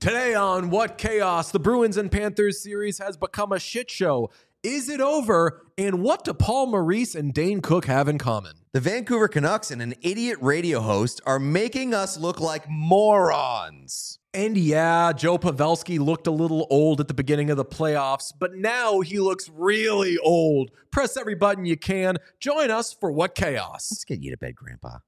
Today on What Chaos, the Bruins and Panthers series has become a shit show. Is it over? And what do Paul Maurice and Dane Cook have in common? The Vancouver Canucks and an idiot radio host are making us look like morons. And yeah, Joe Pavelski looked a little old at the beginning of the playoffs, but now he looks really old. Press every button you can. Join us for What Chaos. Let's get you to bed, Grandpa.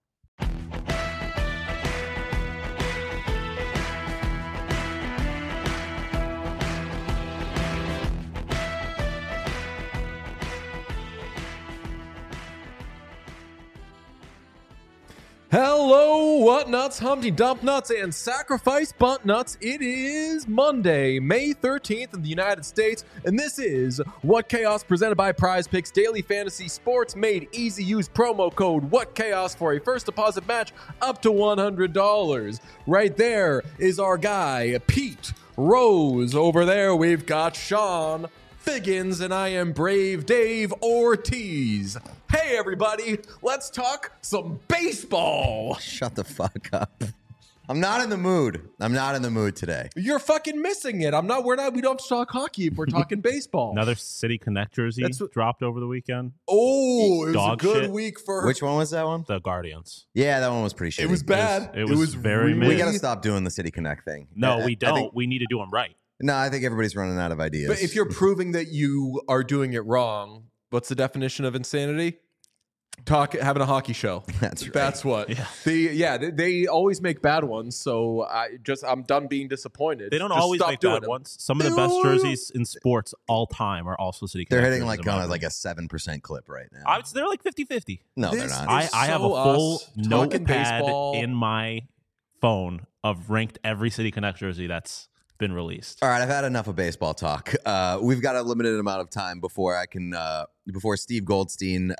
Hello, what nuts, Humpty Dump nuts, and sacrifice bunt nuts. It is Monday, May 13th in the United States, and this is What Chaos presented by Prize Picks Daily Fantasy Sports made easy. Use promo code What Chaos for a first deposit match up to $100. Right there is our guy, Pete Rose. Over there, we've got Sean Figgins, and I am Brave Dave Ortiz. Hey everybody, let's talk some baseball. Shut the fuck up. I'm not in the mood. I'm not in the mood today. You're fucking missing it. We don't talk hockey if we're talking baseball. Another City Connect jersey dropped over the weekend. Oh, it was Dog a good shit. week for Which one was that one? The Guardians. Yeah, that one was pretty shitty. It was bad. It was very really- mid. We got to stop doing the City Connect thing. No, we don't. think- We need to do them right. No, I think everybody's running out of ideas. But if you're proving that you are doing it wrong, what's the definition of insanity? Having a hockey show. That's right. That's what. Yeah. They always make bad ones, so I'm done being disappointed. They don't Just always stop make doing bad them. ones. Some of the best jerseys in sports all time are also City They're Connect hitting jerseys, like in my on opinion. like a 7% clip right now. They're like 50-50. No, they're This not. is I have a so full us talking notepad baseball. in my phone of ranked every City Connect jersey that's been released. All right, I've had enough of baseball talk. We've got a limited amount of time before I can, before Steve Goldstein,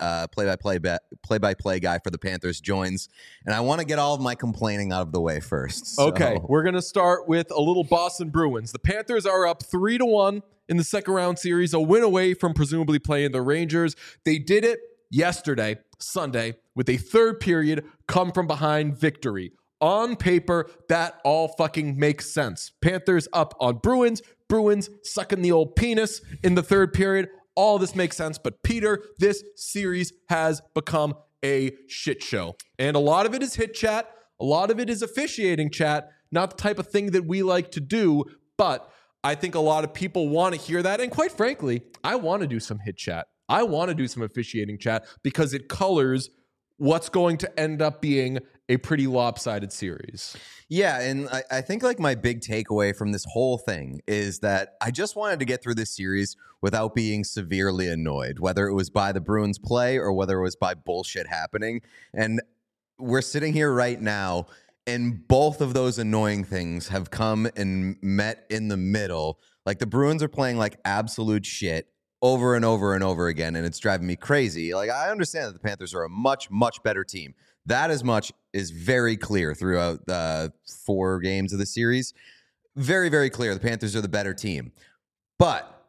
play-by-play guy for the Panthers, joins, and I want to get all of my complaining out of the way first. So. Okay, we're going to start with a little Boston Bruins. The Panthers are up 3-1 in the second round series, a win away from presumably playing the Rangers. They did it yesterday, Sunday, with a third period come from behind victory. On paper, that all fucking makes sense. Panthers up on Bruins, Bruins sucking the old penis in the third period. All this makes sense, but Peter, this series has become a shit show. And a lot of it is hit chat. A lot of it is officiating chat, not the type of thing that we like to do, but I think a lot of people want to hear that. And quite frankly, I want to do some hit chat. I want to do some officiating chat because it colors what's going to end up being a pretty lopsided series. Yeah, and I think like my big takeaway from this whole thing is that I just wanted to get through this series without being severely annoyed, whether it was by the Bruins play or whether it was by bullshit happening. And we're sitting here right now, and both of those annoying things have come and met in the middle. Like the Bruins are playing like absolute shit over and over and over again, and it's driving me crazy. Like I understand that the Panthers are a much, much better team. That as much is very clear throughout the 4 games of the series. Very, very clear. The Panthers are the better team. But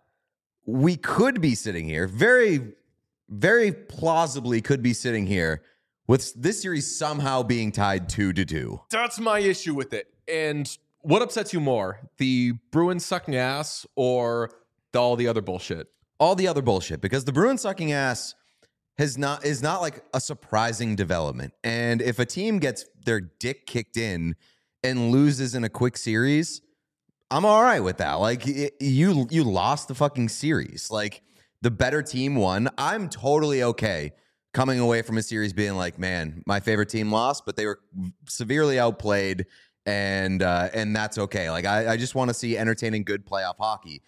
we could be sitting here, very, very plausibly could be sitting here with this series somehow being tied 2-2. That's my issue with it. And what upsets you more? The Bruins sucking ass or all the other bullshit? All the other bullshit, because the Bruins sucking ass is not like a surprising development. And if a team gets their dick kicked in and loses in a quick series, I'm all right with that. Like you lost the fucking series. Like the better team won. I'm totally okay coming away from a series being like, man, my favorite team lost, but they were severely outplayed, and that's okay. Like I just want to see entertaining, good playoff hockey.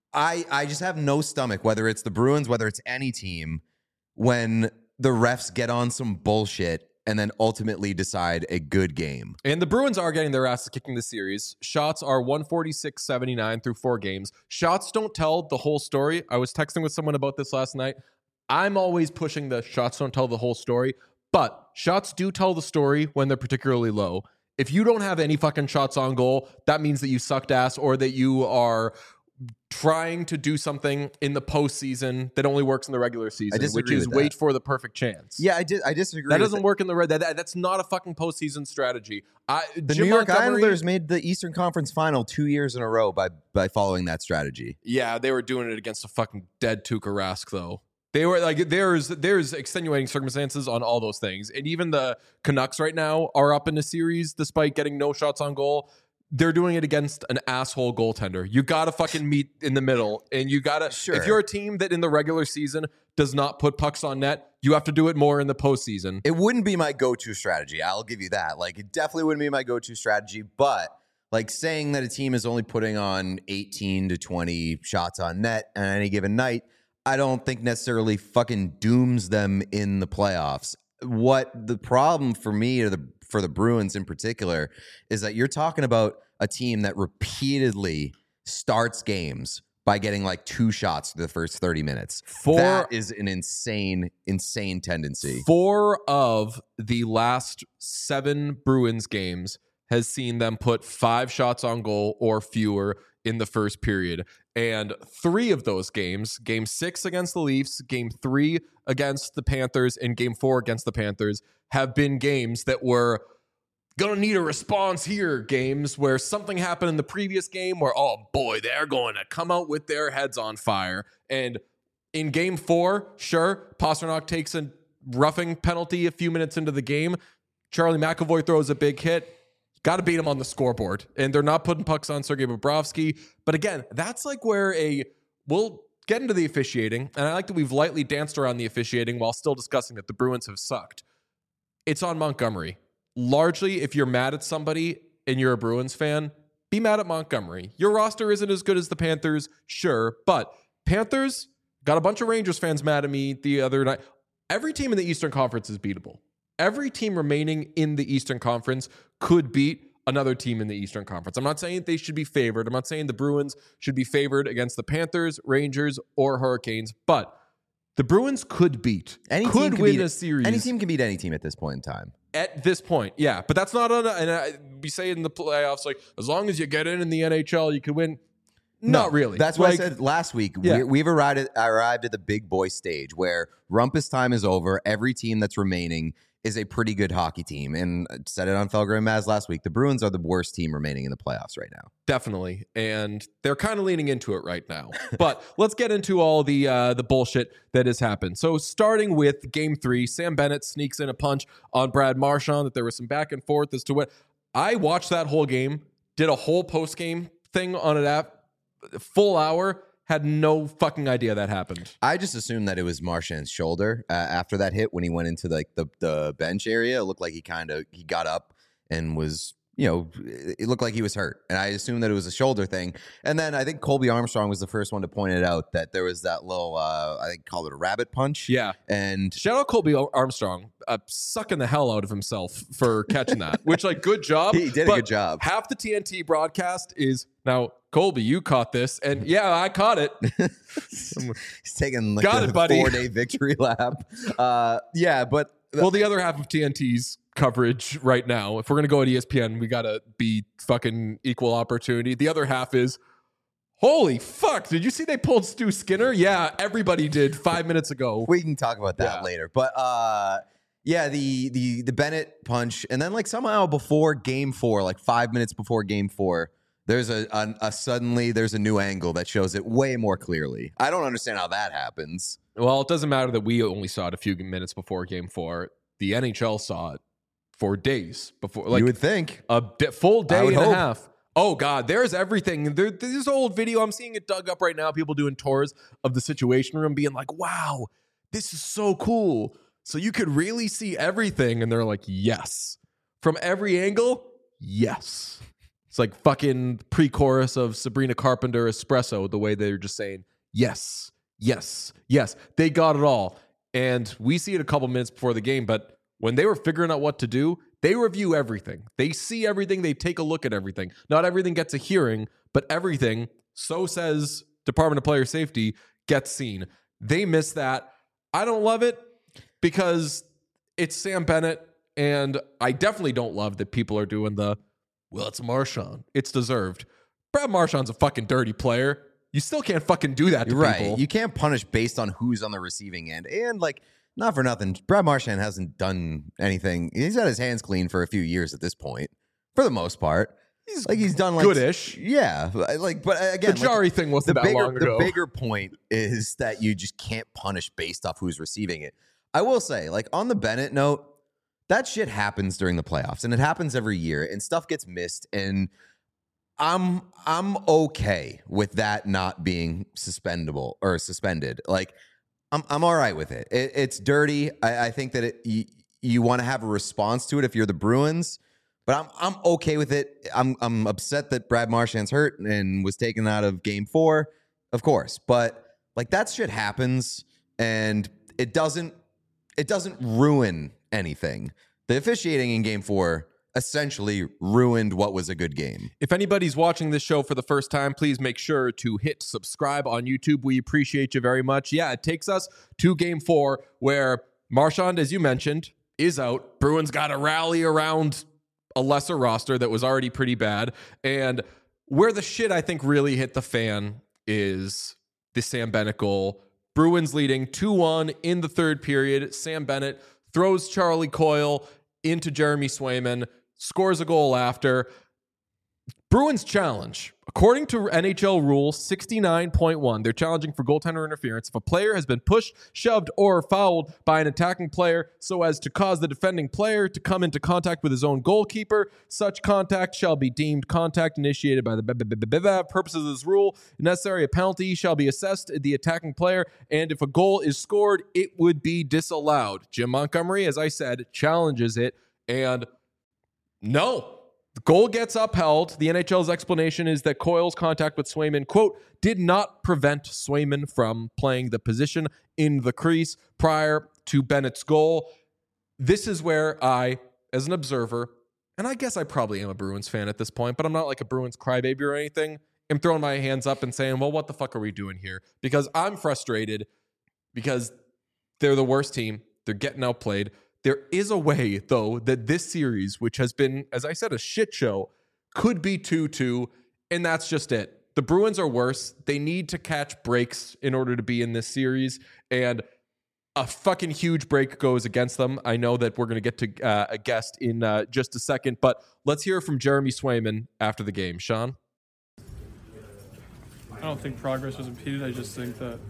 I just have no stomach, whether it's the Bruins, whether it's any team, when the refs get on some bullshit and then ultimately decide a good game. And the Bruins are getting their asses kicked in the series. Shots are 146-79 through 4 games. Shots don't tell the whole story. I was texting with someone about this last night. I'm always pushing the shots don't tell the whole story, but shots do tell the story when they're particularly low. If you don't have any fucking shots on goal, that means that you sucked ass or that you are trying to do something in the postseason that only works in the regular season, which disagree is with wait that. for the perfect chance. Yeah, I disagree. That with doesn't work in the red. That's not a fucking postseason strategy. The New York Islanders made the Eastern Conference Final 2 years in a row by following that strategy. Yeah, they were doing it against a fucking dead Tuukka Rask, though. They were like, there's extenuating circumstances on all those things, and even the Canucks right now are up in the series despite getting no shots on goal. They're doing it against an asshole goaltender. You gotta fucking meet in the middle, and you gotta. Sure. If you're a team that in the regular season does not put pucks on net, you have to do it more in the postseason. It wouldn't be my go-to strategy. I'll give you that. Like, it definitely wouldn't be my go-to strategy. But like saying that a team is only putting on 18 to 20 shots on net on any given night, I don't think necessarily fucking dooms them in the playoffs. What the problem for me, or for the Bruins in particular, is that you're talking about a team that repeatedly starts games by getting like 2 shots through the first 30 minutes. That is an insane tendency. 4 of the last 7 Bruins games has seen them put 5 shots on goal or fewer in the first period. And 3 of those games, game 6 against the Leafs, game 3 against the Panthers, and game 4 against the Panthers, have been games that were gonna need a response here games where something happened in the previous game where, oh boy, they're going to come out with their heads on fire. And in game 4, sure, Pastrnak takes a roughing penalty a few minutes into the game. Charlie McAvoy throws a big hit. Got to beat him on the scoreboard. And they're not putting pucks on Sergei Bobrovsky. But again, that's like where we'll get into the officiating. And I like that we've lightly danced around the officiating while still discussing that the Bruins have sucked. It's on Montgomery. Largely, if you're mad at somebody and you're a Bruins fan, be mad at Montgomery. Your roster isn't as good as the Panthers, sure. But Panthers got a bunch of Rangers fans mad at me the other night. Every team in the Eastern Conference is beatable. Every team remaining in the Eastern Conference could beat another team in the Eastern Conference. I'm not saying they should be favored. I'm not saying the Bruins should be favored against the Panthers, Rangers, or Hurricanes, but the Bruins could beat. Could win a series. Any team can beat any team at this point in time. At this point, yeah. But that's not we say in the playoffs, like, as long as you get in the NHL, you can win. Not really. That's what I said last week. Yeah. We've arrived at the big boy stage where rumpus time is over. Every team that's remaining is a pretty good hockey team. And I said it on Felger and Maz last week. The Bruins are the worst team remaining in the playoffs right now. Definitely. And they're kind of leaning into it right now. But let's get into all the bullshit that has happened. So starting with game 3, Sam Bennett sneaks in a punch on Brad Marchand, that there was some back and forth as to what. I watched that whole game, did a whole post-game thing on it app, full hour, had no fucking idea that happened. I just assumed that it was Marchand's shoulder after that hit when he went into like the bench area. It looked like he got up and was, it looked like he was hurt. And I assumed that it was a shoulder thing. And then I think Colby Armstrong was the first one to point it out, that there was that little, I think called it a rabbit punch. Yeah. And shout out Colby Armstrong, sucking the hell out of himself for catching that, which, like, good job. He did a good job. Half the TNT broadcast is, now, Colby, you caught this. And yeah, I caught it. He's taking like Got a it, buddy. 4-day victory lap. Yeah, but well, the other half of TNT's coverage right now, if we're going to go at ESPN, we got to be fucking equal opportunity. The other half is, holy fuck, did you see they pulled Stu Skinner? Yeah, everybody did 5 minutes ago. We can talk about that later. But yeah, the Bennett punch. And then like somehow before game 4, like 5 minutes before game 4, there's suddenly there's a new angle that shows it way more clearly. I don't understand how that happens. Well, it doesn't matter that we only saw it a few minutes before game 4. The NHL saw it for days before. Like, you would think. A full day and hope. a half. Oh, God, there's everything. There's old video. I'm seeing it dug up right now. People doing tours of the Situation Room being like, wow, this is so cool. So you could really see everything. And they're like, yes. From every angle, yes. It's like fucking pre-chorus of Sabrina Carpenter Espresso, the way they're just saying, yes, yes, yes. They got it all. And we see it a couple minutes before the game, but when they were figuring out what to do, they review everything. They see everything. They take a look at everything. Not everything gets a hearing, but everything, so says Department of Player Safety, gets seen. They miss that. I don't love it because it's Sam Bennett, and I definitely don't love that people are doing well, it's Marchand. It's deserved. Brad Marchand's a fucking dirty player. you still can't fucking do that to Right. people. You can't punish based on who's on the receiving end. And like, not for nothing, Brad Marchand hasn't done anything. He's had his hands clean for a few years at this point, for the most part. He's done like goodish. Yeah. Like, but again, The Jari thing wasn't that long ago. The bigger point is that you just can't punish based off who's receiving it. I will say, like, on the Bennett note, that shit happens during the playoffs, and it happens every year, and stuff gets missed, and I'm okay with that not being suspended. Like, I'm all right with it. It's dirty. I think that you want to have a response to it if you're the Bruins, but I'm okay with it. I'm upset that Brad Marchand's hurt and was taken out of Game 4, of course, but like, that shit happens, and it doesn't ruin anything. The officiating in Game 4 essentially ruined what was a good game. If anybody's watching this show for the first time, please make sure to hit subscribe on YouTube. We appreciate you very much. Yeah, it takes us to Game 4 where Marchand, as you mentioned, is out. Bruins got to rally around a lesser roster that was already pretty bad. And where the shit, I think, really hit the fan is the Sam Bennett goal. Bruins leading 2-1 in the third period. Sam Bennett throws Charlie Coyle into Jeremy Swayman, scores a goal after. Bruins challenge. According to NHL Rule 69.1, they're challenging for goaltender interference if a player has been pushed, shoved, or fouled by an attacking player so as to cause the defending player to come into contact with his own goalkeeper. Such contact shall be deemed contact initiated by the purposes of this rule. If necessary, a penalty shall be assessed the attacking player, and if a goal is scored, it would be disallowed. Jim Montgomery, as I said, challenges it, and no. The goal gets upheld. The NHL's explanation is that Coyle's contact with Swayman, quote, did not prevent Swayman from playing the position in the crease prior to Bennett's goal. This is where I, as an observer, and I guess I probably am a Bruins fan at this point, but I'm not like a Bruins crybaby or anything, am throwing my hands up and saying, well, what the fuck are we doing here? Because I'm frustrated because they're the worst team. They're getting outplayed. There is a way, though, that this series, which has been, as I said, a shit show, could be 2-2, and that's just it. The Bruins are worse. They need to catch breaks in order to be in this series, and a fucking huge break goes against them. I know that we're going to get to a guest in just a second, but let's hear from Jeremy Swayman after the game. Sean? I don't think progress was impeded. I just think that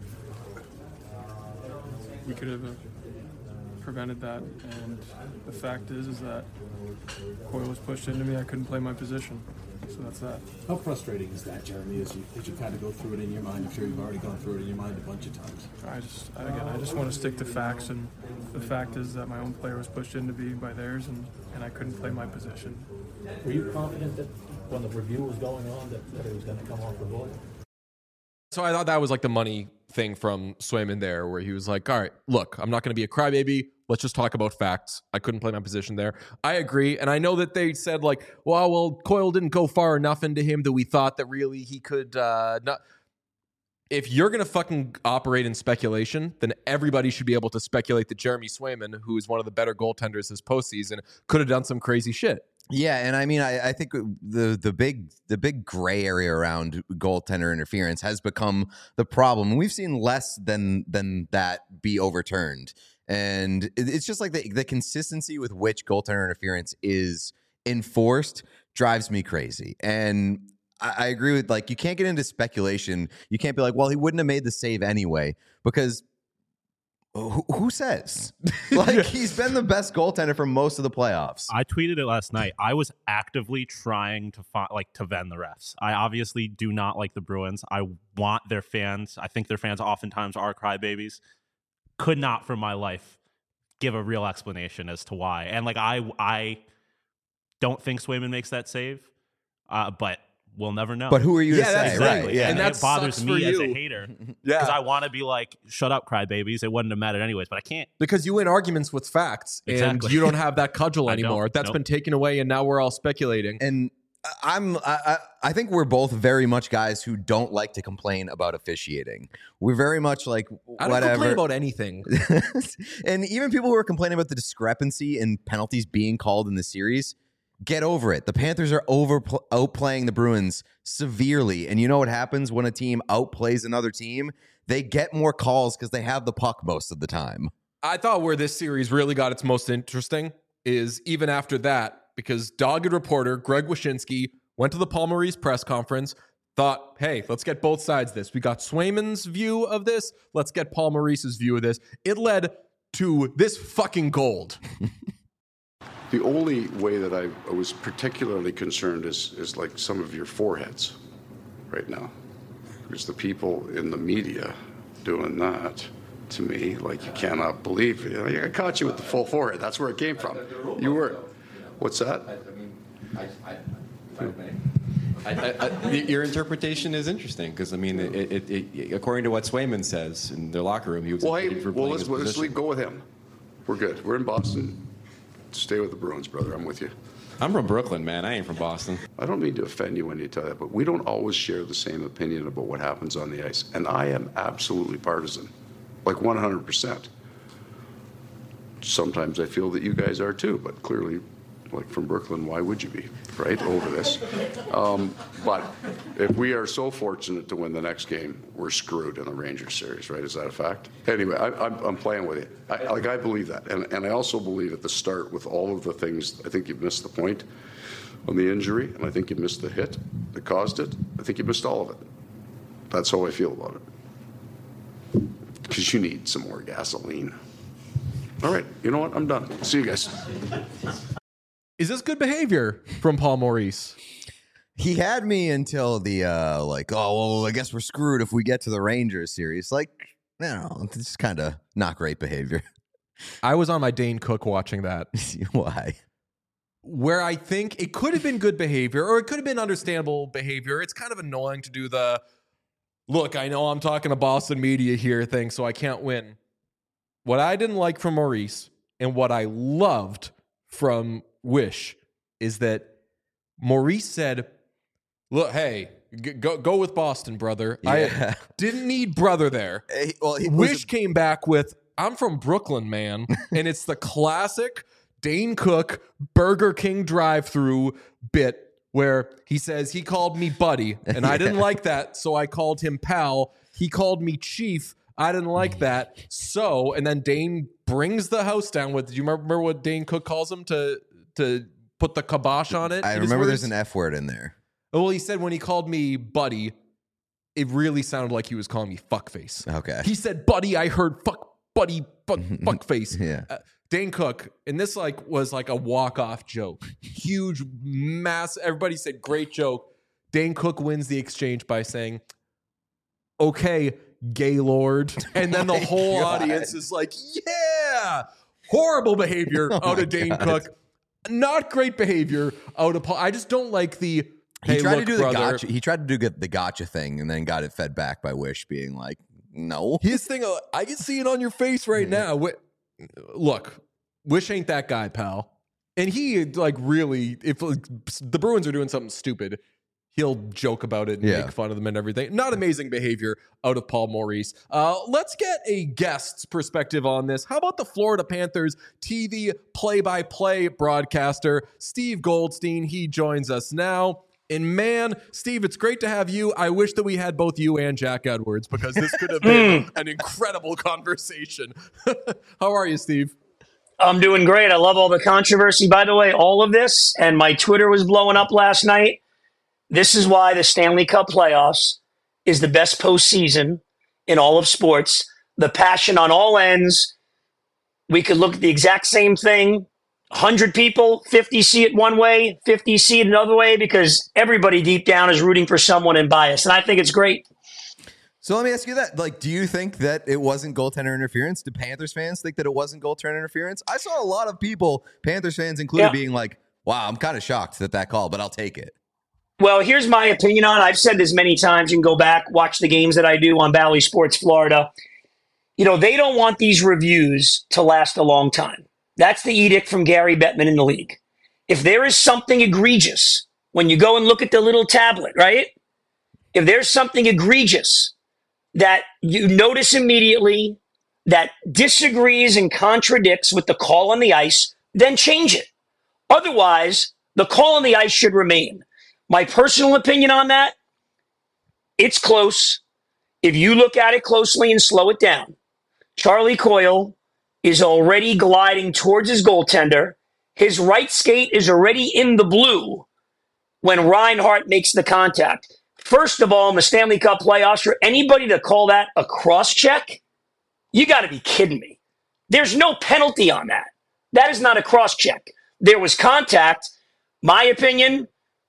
we could have prevented that, and the fact is that Coyle was pushed into me. I couldn't play my position, so that's that. How frustrating is that, Jeremy, as you kind of go through it in your mind? I'm sure you've already gone through it in your mind a bunch of times. I just want to stick to facts, and the fact is that my own player was pushed into me by theirs, and I couldn't play my position. Were you confident that when the review was going on that it was going to come off the board? So I thought that was like the money thing from Swayman there, where he was like, all right, look, I'm not going to be a crybaby. Let's just talk about facts. I couldn't play my position there. I agree. And I know that they said like, well, Coyle didn't go far enough into him that we thought that really he could not. If you're going to fucking operate in speculation, then everybody should be able to speculate that Jeremy Swayman, who is one of the better goaltenders this postseason, could have done some crazy shit. Yeah, and I mean, I think the big gray area around goaltender interference has become the problem. We've seen less than that be overturned, and it's just like the consistency with which goaltender interference is enforced drives me crazy. And I agree with, like, you can't get into speculation. You can't be like, well, he wouldn't have made the save anyway, because who says? Like, he's been the best goaltender for most of the playoffs. I tweeted it last night. I was actively trying to to vend the refs. I obviously do not like the Bruins. I want their fans. I think their fans oftentimes are crybabies. Could not for my life give a real explanation as to why. And like, I don't think Swayman makes that save, but we'll never know. But who are you to Yeah, say? that's exactly. Right? Yeah. And that it bothers sucks for me as a you. hater. Yeah. Because I want to be like, shut up, crybabies. It wouldn't have mattered anyways, but I can't. Because you win arguments with facts, and Exactly. you don't have that cudgel I anymore. don't. That's Nope. been taken away, and now we're all speculating. And I think we're both very much guys who don't like to complain about officiating. We're very much like, I don't whatever. complain about anything. And even people who are complaining about the discrepancy in penalties being called in the series, Get over it. The Panthers are outplaying the Bruins severely. And you know what happens when a team outplays another team? They get more calls because they have the puck most of the time. I thought where this series really got its most interesting is even after that, because dogged reporter Greg Wyshynski went to the Paul Maurice press conference, thought, hey, let's get both sides of this. We got Swayman's view of this. Let's get Paul Maurice's view of this. It led to this fucking gold. The only way that I was particularly concerned is like some of your foreheads right now. Because the people in the media doing that to me, like you cannot believe it. I caught you with the full forehead. That's where it came from. You were. What's that? Your interpretation is interesting because, I mean, it according to what Swayman says in their locker room, he was let's go with him. We're good. We're in Boston. Stay with the Bruins, brother. I'm with you. I'm from Brooklyn, man. I ain't from Boston. I don't mean to offend you when you tell that, but we don't always share the same opinion about what happens on the ice. And I am absolutely partisan, like 100%. Sometimes I feel that you guys are too, but clearly, like from Brooklyn, why would you be, right, over this? But if we are so fortunate to win the next game, we're screwed in the Rangers series, right? Is that a fact? Anyway, I'm playing with you. I believe that. And I also believe at the start with all of the things, I think you've missed the point on the injury, and I think you missed the hit that caused it. I think you missed all of it. That's how I feel about it. Because you need some more gasoline. All right, you know what? I'm done. See you guys. Is this good behavior from Paul Maurice? He had me until the I guess we're screwed if we get to the Rangers series. Like, no, it's kind of not great behavior. I was on my Dane Cook watching that. Why? Where I think it could have been good behavior, or it could have been understandable behavior. It's kind of annoying to do the, look, I know I'm talking to Boston media here thing, so I can't win. What I didn't like from Maurice and what I loved from Wish is that Maurice said, look, hey, go with Boston, brother. Yeah. I didn't need brother there. Wish came back with, I'm from Brooklyn, man. And it's the classic Dane Cook Burger King drive-through bit where he says he called me buddy, and I didn't like that, so I called him pal. He called me chief. I didn't like that. So, and then Dane brings the house down with, do you remember what Dane Cook calls him to put the kibosh on it? I remember there's an F word in there. Well, he said when he called me buddy, it really sounded like he was calling me fuckface. Okay. He said, buddy, I heard fuckface. Yeah. Dane Cook, and this was like a walk-off joke. Huge, mass. Everybody said, great joke. Dane Cook wins the exchange by saying, okay, Gaylord. And then the whole audience is like, yeah. Horrible behavior out of Dane Cook. Not great behavior out of Paul. I just don't like the, hey, he tried look, to do brother. the gotcha. He tried to do the gotcha thing and then got it fed back by Wish being like, no. His thing, I can see it on your face right now. Look, Wish ain't that guy, pal. And he really, if the Bruins are doing something stupid, he'll joke about it and make fun of them and everything. Not amazing behavior out of Paul Maurice. Let's get a guest's perspective on this. How about the Florida Panthers TV play-by-play broadcaster, Steve Goldstein? He joins us now. And man, Steve, it's great to have you. I wish that we had both you and Jack Edwards because this could have been an incredible conversation. How are you, Steve? I'm doing great. I love all the controversy. By the way, all of this, and my Twitter was blowing up last night. This is why the Stanley Cup playoffs is the best postseason in all of sports. The passion on all ends. We could look at the exact same thing. 100 people, 50 see it one way, 50 see it another way, because everybody deep down is rooting for someone and biased. And I think it's great. So let me ask you that. Do you think that it wasn't goaltender interference? Do Panthers fans think that it wasn't goaltender interference? I saw a lot of people, Panthers fans included, being like, wow, I'm kind of shocked that call, but I'll take it. Well, here's my opinion on it. I've said this many times. You can go back, watch the games that I do on Bally Sports Florida. They don't want these reviews to last a long time. That's the edict from Gary Bettman in the league. If there is something egregious, when you go and look at the little tablet, right? If there's something egregious that you notice immediately that disagrees and contradicts with the call on the ice, then change it. Otherwise, The call on the ice should remain. My personal opinion on that, it's close. If you look at it closely and slow it down, Charlie Coyle is already gliding towards his goaltender. His right skate is already in the blue when Reinhart makes the contact. First of all, in the Stanley Cup playoffs, for anybody to call that a cross-check, you got to be kidding me. There's no penalty on that. That is not a cross-check. There was contact. My opinion,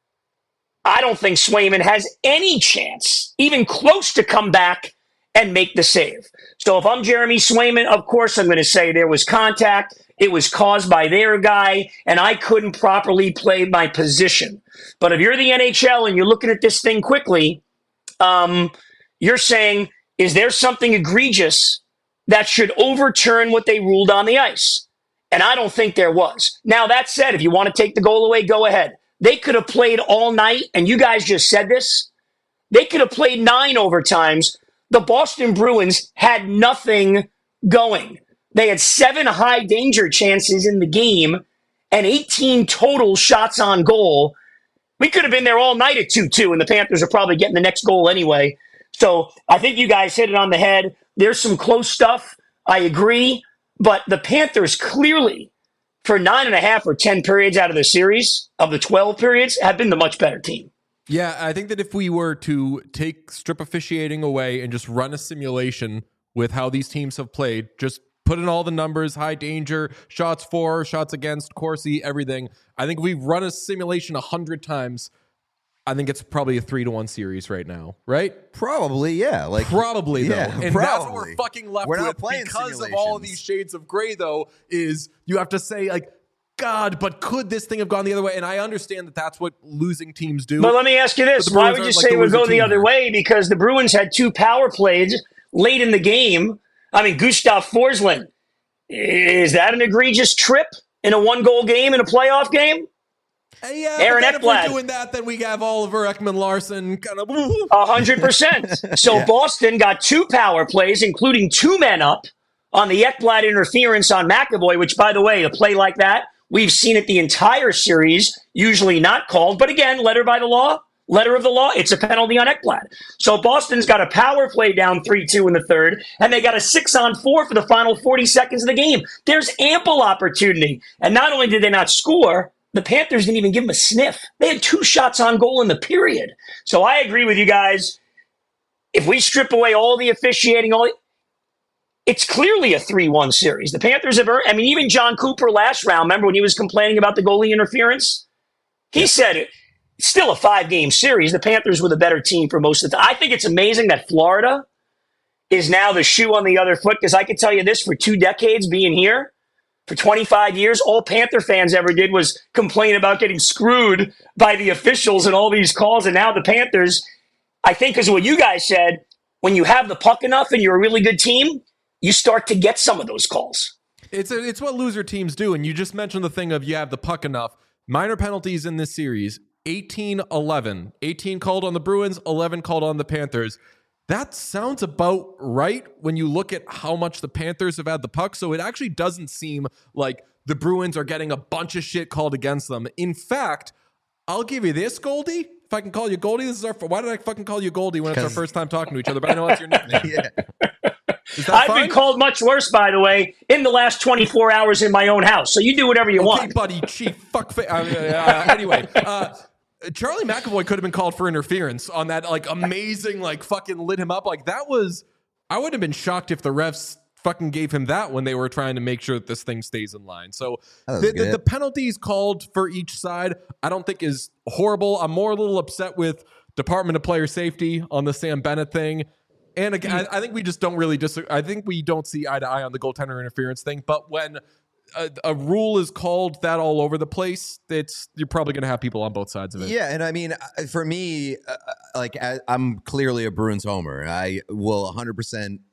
I don't think Swayman has any chance, even close to come back and make the save. So if I'm Jeremy Swayman, of course I'm going to say there was contact. It was caused by their guy, and I couldn't properly play my position. But if you're the NHL and you're looking at this thing quickly, you're saying, is there something egregious that should overturn what they ruled on the ice? And I don't think there was. Now, that said, if you want to take the goal away, go ahead. They could have played all night, and you guys just said this. They could have played 9 overtimes. The Boston Bruins had nothing going. They had 7 high danger chances in the game and 18 total shots on goal. We could have been there all night at 2-2, and the Panthers are probably getting the next goal anyway. So I think you guys hit it on the head. There's some close stuff. I agree. But the Panthers clearly, for 9.5 or 10 periods out of the series, of the 12 periods, have been the much better team. Yeah, I think that if we were to take strip officiating away and just run a simulation with how these teams have played, just put in all the numbers, high danger, shots for, shots against, Corsi, everything. I think we've run a simulation 100 times. I think it's probably a 3-1 series right now, right? Probably, yeah. Probably, though. Yeah, and probably. that's what we're fucking left We're with not playing because of all of these shades of gray, though, is you have to say, God, but could this thing have gone the other way? And I understand that that's what losing teams do. But let me ask you this. Why would you say it would go the other way? Because the Bruins had 2 power plays late in the game. I mean, Gustav Forsling, is that an egregious trip in a 1-goal game in a playoff game? Yeah, Aaron but then Ekblad. if we're doing that, then we have Oliver Ekman-Larsson kind of 100%. So yeah. Boston got 2 power plays, including 2 men up on the Ekblad interference on McAvoy, which, by the way, a play like that, we've seen it the entire series, usually not called. But again, letter of the law, it's a penalty on Ekblad. So Boston's got a power play down 3-2 in the third, and they got a 6-on-4 for the final 40 seconds of the game. There's ample opportunity. And not only did they not score, the Panthers didn't even give them a sniff. They had 2 shots on goal in the period. So I agree with you guys. If we strip away all the officiating, it's clearly a 3-1 series. The Panthers have earned, even John Cooper last round, remember when he was complaining about the goalie interference? He said it's still a 5-game series. The Panthers were the better team for most of the time. I think it's amazing that Florida is now the shoe on the other foot, because I can tell you this, for 2 decades being here, for 25 years, all Panther fans ever did was complain about getting screwed by the officials and all these calls. And now the Panthers, I think, because of what you guys said, when you have the puck enough and you're a really good team, you start to get some of those calls. It's what loser teams do. And you just mentioned the thing of you have the puck enough. Minor penalties in this series, 18-11. 18 called on the Bruins, 11 called on the Panthers. That sounds about right when you look at how much the Panthers have had the puck. So it actually doesn't seem like the Bruins are getting a bunch of shit called against them. In fact, I'll give you this, Goldie. If I can call you Goldie, why did I fucking call you Goldie when it's our first time talking to each other? But I know that's your nickname. Yeah. I've been called much worse, by the way, in the last 24 hours in my own house. So you do whatever you want. Okay, buddy, chief, anyway, Charlie McAvoy could have been called for interference on that, amazing, fucking lit him up. That was, I wouldn't have been shocked if the refs fucking gave him that when they were trying to make sure that this thing stays in line. So the penalties called for each side, I don't think is horrible. I'm more a little upset with Department of Player Safety on the Sam Bennett thing. And again, I think we just don't really disagree. I think we don't see eye to eye on the goaltender interference thing. But when a rule is called that all over the place, you're probably going to have people on both sides of it. Yeah, and for me, I'm clearly a Bruins homer. I will 100%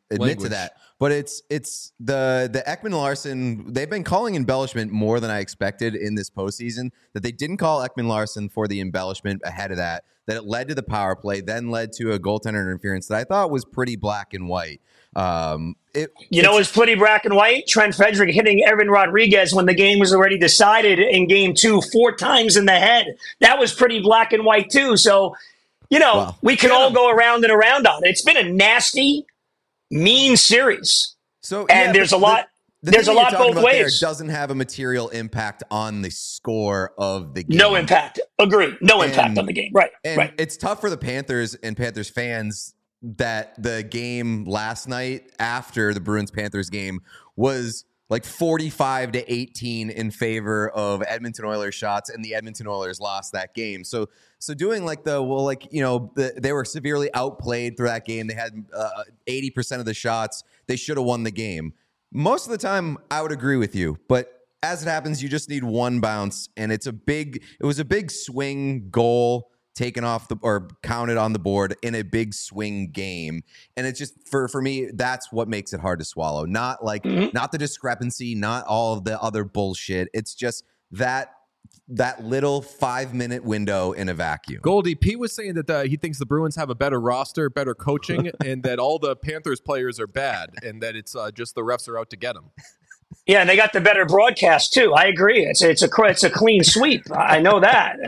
admit Language. to that. But it's the Ekman Larson. They've been calling embellishment more than I expected in this postseason. That they didn't call Ekman Larson for the embellishment ahead of that. That it led to the power play, then led to a goaltender interference that I thought was pretty black and white. It's pretty black and white. Trent Frederick hitting Evan Rodriguez when the game was already decided in game 2 4 times in the head. That was pretty black and white too. So, we can all go around and around on it. It's been a nasty, mean series. So, and there's a lot. There's a lot both ways. Doesn't have a material impact on the score of the game. No impact. Agree. No impact on the game. Right. And it's tough for the Panthers and Panthers fans that the game last night after the Bruins-Panthers game was like 45-18 in favor of Edmonton Oilers shots, and the Edmonton Oilers lost that game. So doing they were severely outplayed through that game. They had 80% of the shots. They should have won the game. Most of the time, I would agree with you, but as it happens, you just need one bounce, and it was a big swing goal taken off or counted on the board in a big swing game. And it's just for me, that's what makes it hard to swallow. Not not the discrepancy, not all of the other bullshit. It's just that little 5-minute window in a vacuum. Goldie, Pete was saying that he thinks the Bruins have a better roster, better coaching, and that all the Panthers players are bad, and that it's just the refs are out to get them. Yeah, and they got the better broadcast too. I agree. It's a clean sweep. I know that.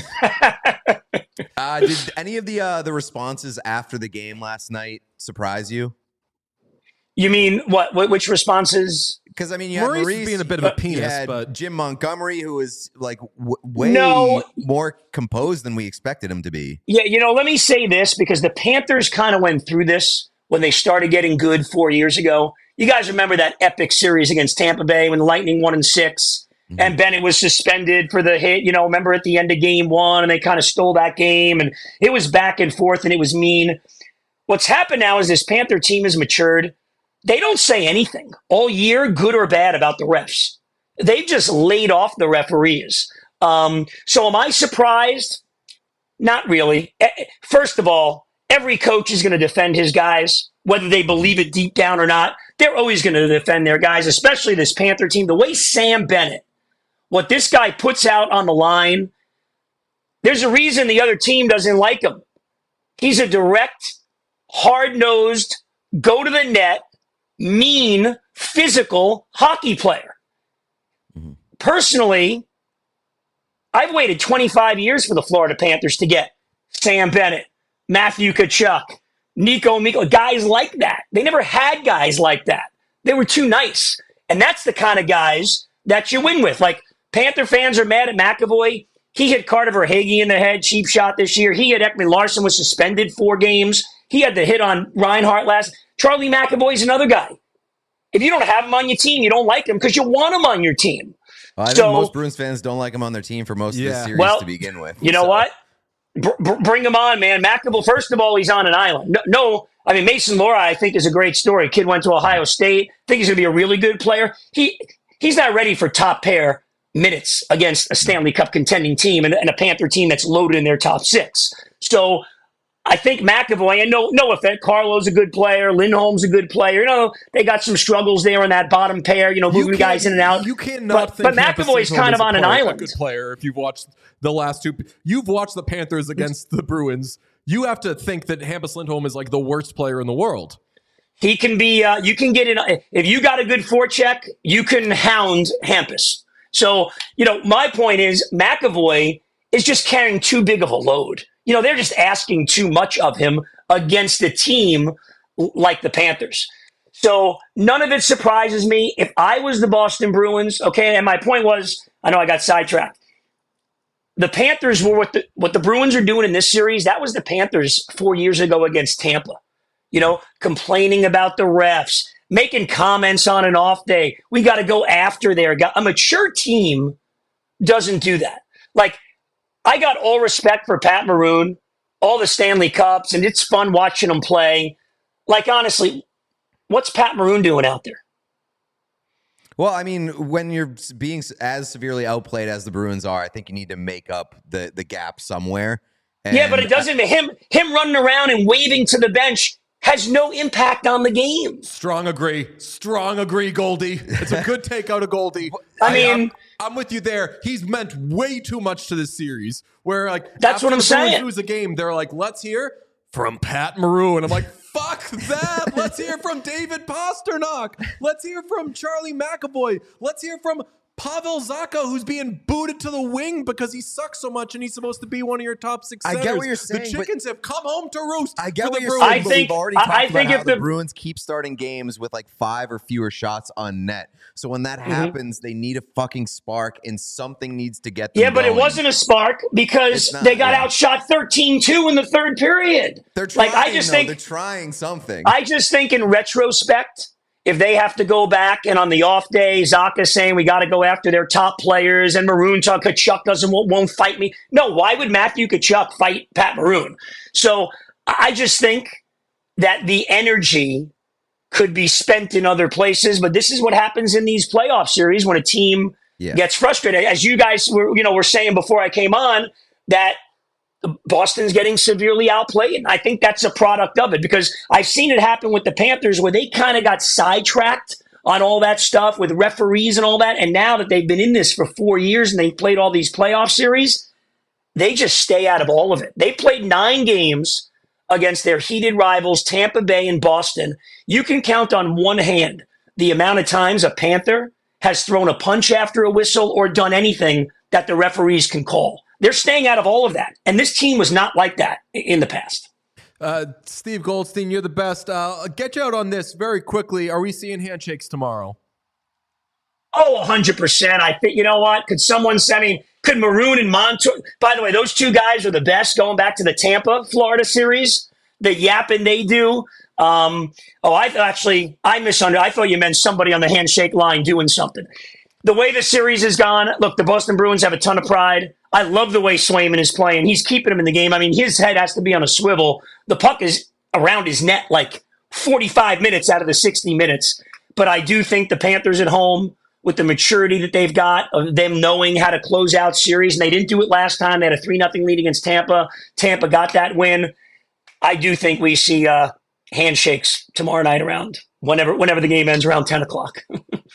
Did any of the responses after the game last night surprise you? You mean what? Which responses? Because I mean, you had Maurice being a bit of a penis, but Jim Montgomery, who was like way more composed than we expected him to be. Yeah, let me say this because the Panthers kind of went through this when they started getting good 4 years ago. You guys remember that epic series against Tampa Bay when the Lightning won in 6, and Bennett was suspended for the hit. Remember at the end of game 1, and they kind of stole that game, and it was back and forth, and it was mean. What's happened now is this Panther team has matured. They don't say anything all year, good or bad, about the refs. They've just laid off the referees. So am I surprised? Not really. First of all, every coach is going to defend his guys, whether they believe it deep down or not. They're always going to defend their guys, especially this Panther team. The way Sam Bennett, what this guy puts out on the line, there's a reason the other team doesn't like him. He's a direct, hard-nosed, go-to-the-net, mean, physical hockey player. Personally, I've waited 25 years for the Florida Panthers to get Sam Bennett, Matthew Tkachuk, Nico Mikko, guys like that. They never had guys like that. They were too nice. And that's the kind of guys that you win with. Like, Panther fans are mad at McAvoy. He hit Carter Verhaeghe in the head, cheap shot this year. He had Ekman Larson, was suspended 4 games. He had the hit on Reinhart last. Charlie McAvoy's another guy. If you don't have him on your team, you don't like him because you want him on your team. Well, I think most Bruins fans don't like him on their team for most of the series to begin with. You know what? Bring him on, man. McAvoy, first of all, he's on an island. Mason Laura, I think, is a great story. Kid went to Ohio State. I think he's going to be a really good player. He's not ready for top pair minutes against a Stanley Cup contending team and a Panther team that's loaded in their top 6. So I think McAvoy, and no offense, Carlo's a good player. Lindholm's a good player. They got some struggles there in that bottom pair, moving guys in and out. You cannot think but McAvoy's kind of on an island. A good player. If you've watched the last 2, you've watched the Panthers against the Bruins. You have to think that Hampus Lindholm is like the worst player in the world. He can be, you can get in. If you got a good forecheck, you can hound Hampus. So, my point is McAvoy is just carrying too big of a load. They're just asking too much of him against a team like the Panthers. So none of it surprises me. If I was the Boston Bruins, okay, and my point was, I know I got sidetracked. The Panthers were what the Bruins are doing in this series. That was the Panthers 4 years ago against Tampa. Complaining about the refs, making comments on an off day. We got to go after their guy. A mature team doesn't do that. Like, I got all respect for Pat Maroon, all the Stanley Cups, and it's fun watching him play. Like, honestly, what's Pat Maroon doing out there? Well, I mean, when you're being as severely outplayed as the Bruins are, I think you need to make up the gap somewhere. And yeah, but it doesn't. Him running around and waving to the bench has no impact on the game. Strong agree, Goldie. It's a good take out of Goldie. I'm with you there. He's meant way too much to this series. Where like that's what I'm saying. Lose a game, they're like, let's hear from Pat Maroon, and I'm like, fuck that. Let's hear from David Pasternak. Let's hear from Charlie McAvoy. Let's hear from Pavel Zacha, who's being booted to the wing because he sucks so much and he's supposed to be one of your top 6 centers. I get what you're saying. The Chickens have come home to roost. I get what you're Bruins. saying, but we've already talked about how if the Bruins keep starting games with like 5 or fewer shots on net. So when that happens, they need a fucking spark and something needs to get them but going. it wasn't a spark because they got outshot 13-2 in the third period. They're trying, they're trying something. I just think in retrospect, if they have to go back and on the off day, Zacha's saying we got to go after their top players and Maroon Tkachuk won't fight me. No, why would Matthew Tkachuk fight Pat Maroon? So I just think that the energy could be spent in other places, but this is what happens in these playoff series when a team gets frustrated. As you guys were saying before I came on, that Boston's getting severely outplayed. And I think that's a product of it because I've seen it happen with the Panthers where they kind of got sidetracked on all that stuff with referees and all that. And now that they've been in this for 4 years and they've played all these playoff series, they just stay out of all of it. They played 9 games against their heated rivals, Tampa Bay and Boston. You can count on one hand the amount of times a Panther has thrown a punch after a whistle or done anything that the referees can call. They're staying out of all of that. And this team was not like that in the past. Steve Goldstein, you're the best. I'll get you out on this very quickly. Are we seeing handshakes tomorrow? Oh, 100%. I think, you know what? Could someone send me, could Maroon and Montour, by the way, those 2 guys are the best going back to the Tampa, Florida series, the yapping they do. I misunderstood. I thought you meant somebody on the handshake line doing something. The way the series has gone, look, the Boston Bruins have a ton of pride. I love the way Swayman is playing. He's keeping him in the game. I mean, his head has to be on a swivel. The puck is around his net like 45 minutes out of the 60 minutes. But I do think the Panthers at home, with the maturity that they've got, of them knowing how to close out series, and they didn't do it last time. They had a 3-0 lead against Tampa. Tampa got that win. I do think we see handshakes tomorrow night around whenever the game ends around 10 o'clock.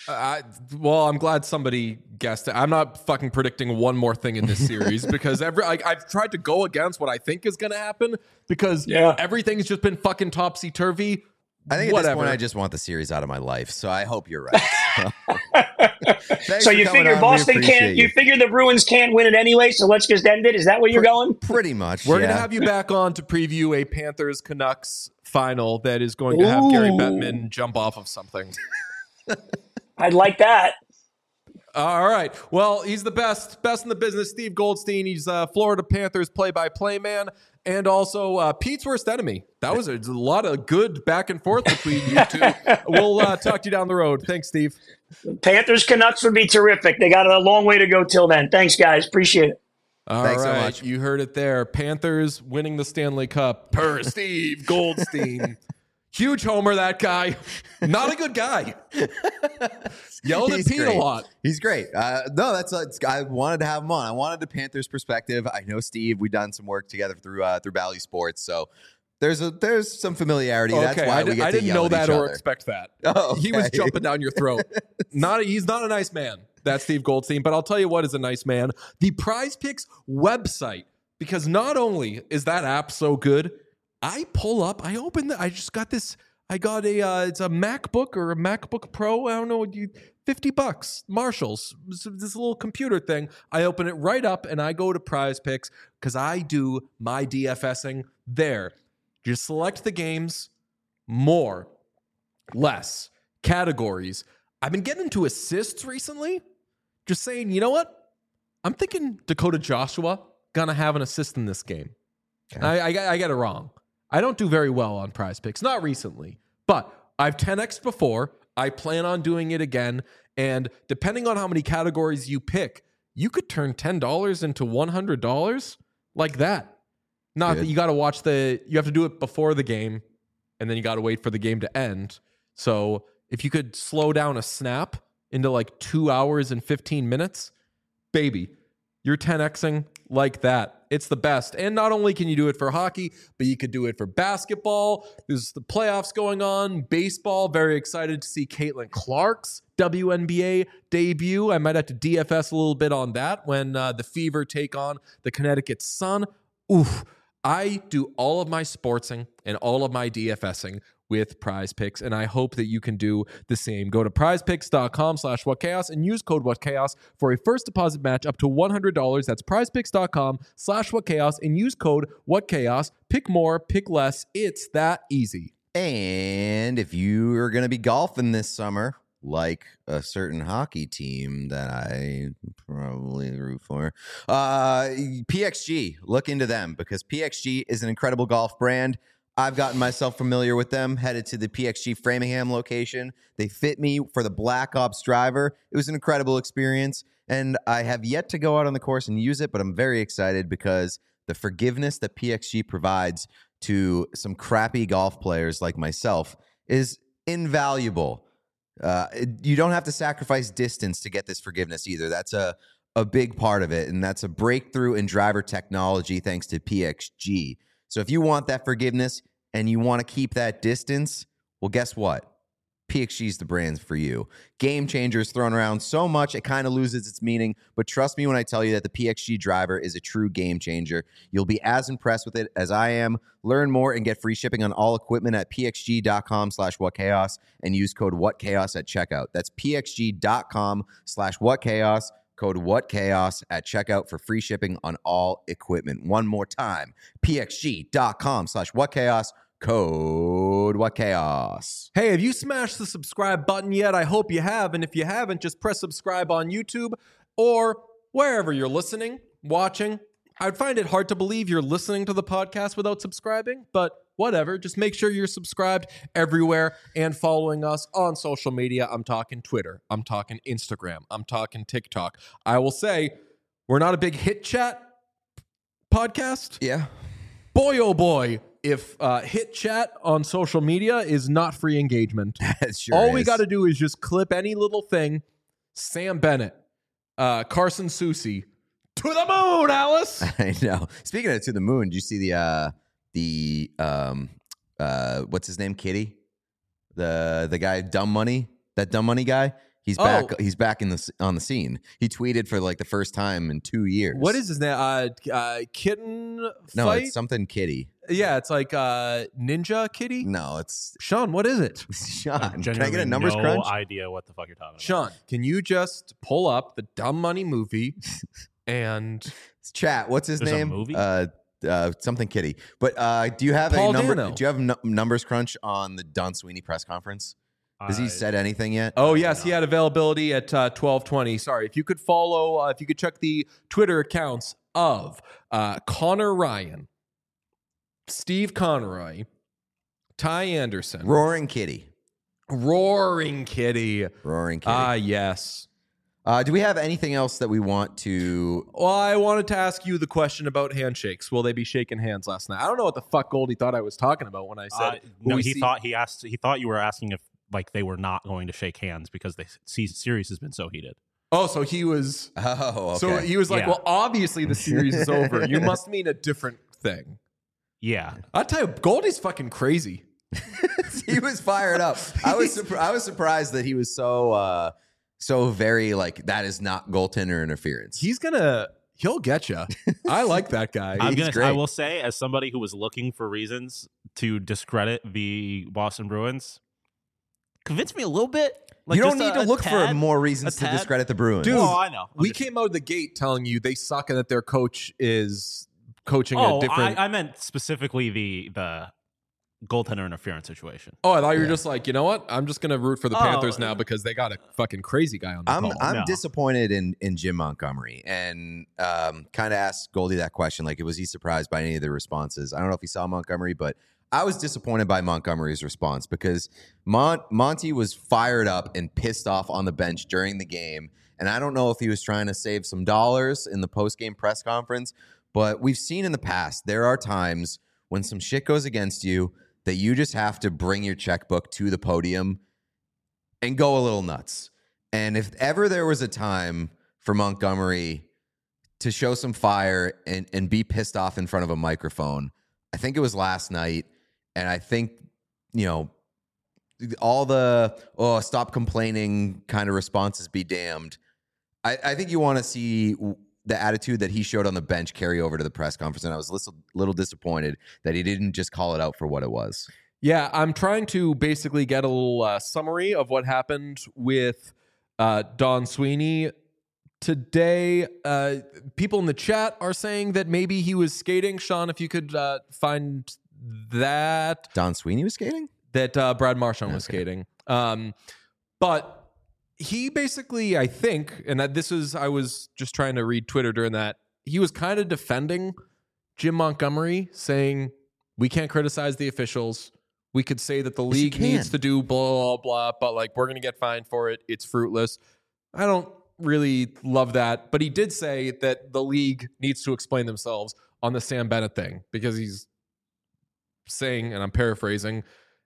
I'm glad somebody guessed it. I'm not fucking predicting one more thing in this series because I've tried to go against what I think is going to happen because everything's just been fucking topsy-turvy. I think at this point, I just want the series out of my life, so I hope you're right. So you figure Boston can't, you figure the Bruins can't win it anyway, so let's just end it? Is that where you're going? Pretty much, We're going to have you back on to preview a Panthers-Canucks final that is going to have Gary Bettman jump off of something. I'd like that. All right. Well, he's the best in the business. Steve Goldstein. He's Florida Panthers play-by-play man, and also Pete's worst enemy. That was a lot of good back and forth between you two. We'll talk to you down the road. Thanks, Steve. Panthers Canucks would be terrific. They got a long way to go till then. Thanks, guys. Appreciate it. Thanks so much. You heard it there. Panthers winning the Stanley Cup per Steve Goldstein. Huge homer, that guy. Not a good guy. Yelled at Pete a lot. He's great. I wanted to have him on. I wanted the Panthers perspective. I know Steve. We've done some work together through Bally Sports, so there's some familiarity. Okay, That's why we get I to didn't yell know at that each or other. expect that. Oh, okay. He was jumping down your throat. He's not a nice man. That's Steve Goldstein. But I'll tell you what is a nice man. The Prize Picks website. Because not only is that app so good, I just got this. I got it's a MacBook or a MacBook Pro. I don't know, $50. Marshalls, this little computer thing. I open it right up and I go to Prize Picks because I do my DFSing there. Just select the games, more, less, categories. I've been getting into assists recently. Just saying, you know what? I'm thinking Dakota Joshua gonna have an assist in this game. Okay. I get it wrong. I don't do very well on Prize Picks, not recently, but I've 10x'd before. I plan on doing it again. And depending on how many categories you pick, you could turn $10 into $100 like that. Not that you got to you have to do it before the game and then you got to wait for the game to end. So if you could slow down a snap into like 2 hours and 15 minutes, baby, you're 10xing like that. It's the best. And not only can you do it for hockey, but you could do it for basketball. There's the playoffs going on. Baseball, very excited to see Caitlin Clark's WNBA debut. I might have to DFS a little bit on that when the Fever take on the Connecticut Sun. Oof. I do all of my sportsing and all of my DFSing with Prize Picks, and I hope that you can do the same. Go to prizepicks.com/whatchaos and use code whatchaos for a first deposit match up to $100. That's prizepicks.com/whatchaos and use code whatchaos. Pick more, pick less. It's that easy. And if you are going to be golfing this summer, like a certain hockey team that I probably root for, PXG, look into them because PXG is an incredible golf brand. I've gotten myself familiar with them, headed to the PXG Framingham location. They fit me for the Black Ops driver. It was an incredible experience, and I have yet to go out on the course and use it, but I'm very excited because the forgiveness that PXG provides to some crappy golf players like myself is invaluable. You don't have to sacrifice distance to get this forgiveness either. That's a big part of it, and that's a breakthrough in driver technology thanks to PXG. So if you want that forgiveness and you want to keep that distance, well, guess what? PXG is the brand for you. Game changer is thrown around so much, it kind of loses its meaning. But trust me when I tell you that the PXG driver is a true game changer. You'll be as impressed with it as I am. Learn more and get free shipping on all equipment at pxg.com/whatchaos and use code whatchaos at checkout. That's pxg.com/whatchaos. Code whatchaos at checkout for free shipping on all equipment. One more time, pxg.com/whatchaos. Code whatchaos. Hey, have you smashed the subscribe button yet? I hope you have. And if you haven't, just press subscribe on YouTube or wherever you're listening, watching. I'd find it hard to believe you're listening to the podcast without subscribing, but whatever. Just make sure you're subscribed everywhere and following us on social media. I'm talking Twitter. I'm talking Instagram. I'm talking TikTok. I will say we're not a big hit chat podcast. Yeah. Boy, oh boy, if hit chat on social media is not free engagement. It sure All we is. got to do is just clip any little thing. Sam Bennett, Carson Soucy, to the moon, Alice. I know. Speaking of to the moon, did you see the what's his name? Kitty? The guy Dumb Money? That Dumb Money guy? He's back. He's back on the scene. He tweeted for like the first time in 2 years. What is his name? Kitten fight? No, it's something Kitty. Yeah, it's like Ninja Kitty. No, it's Sean, what is it? Sean. Can I get a numbers no crunch? idea what the fuck you're talking about. Sean, can you just pull up the Dumb Money movie and Chat. What's his There's a name? movie? Something Kitty. But do you have Paul a number? Dano. Do you have numbers crunch on the Don Sweeney press conference? Has he said anything yet? Oh, yes, he had availability at 12:20. Sorry, if you could follow, if you could check the Twitter accounts of Connor Ryan, Steve Conroy, Ty Anderson, Roaring Kitty. Roaring Kitty. Roaring Kitty. Ah, yes. Do we have anything else that we want to? Well, I wanted to ask you the question about handshakes. Will they be shaking hands last night? I don't know what the fuck Goldie thought I was talking about when I said. No, will we he see- thought you were asking if like they were not going to shake hands because the series has been so heated. Oh, so he was. Oh, okay. So he was like, Yeah. well, obviously the series is over. You must mean a different thing. Yeah. I'll tell you, Goldie's fucking crazy. He was fired up. I was surprised that he was so very like that is not goaltender interference. He'll get you. I like that guy. I will say, as somebody who was looking for reasons to discredit the Boston Bruins, convinced me a little bit. Like you don't just need to look for tad, more reasons to tad. discredit the Bruins. Dude, Oh, I know. we came out of the gate telling you they suck and that their coach is coaching a Oh, different. I meant specifically the goaltender interference situation. Oh, I thought you were just like, you know what? I'm just gonna root for the Oh. Panthers now because they got a fucking crazy guy on the call. I'm No. disappointed in Jim Montgomery and kind of asked Goldie that question. Like, was he surprised by any of the responses? I don't know if he saw Montgomery, but I was disappointed by Montgomery's response because Monty was fired up and pissed off on the bench during the game. And I don't know if he was trying to save some dollars in the post-game press conference, but we've seen in the past, there are times when some shit goes against you that you just have to bring your checkbook to the podium and go a little nuts. And if ever there was a time for Montgomery to show some fire and be pissed off in front of a microphone. I think it was last night. And I think, all the, stop complaining kind of responses be damned. I think you want to see the attitude that he showed on the bench carry over to the press conference. And I was a little disappointed that he didn't just call it out for what it was. Yeah, I'm trying to basically get a little summary of what happened with Don Sweeney today. People in the chat are saying that maybe he was skating. Sean, if you could find that. Don Sweeney was skating? That Brad Marchand was skating. But he basically, I think, and that this is, I was just trying to read Twitter during that, he was kind of defending Jim Montgomery, saying, we can't criticize the officials. We could say that the league needs to do blah, blah, blah, but like we're going to get fined for it. It's fruitless. I don't really love that. But he did say that the league needs to explain themselves on the Sam Bennett thing, because he's saying, and I'm paraphrasing,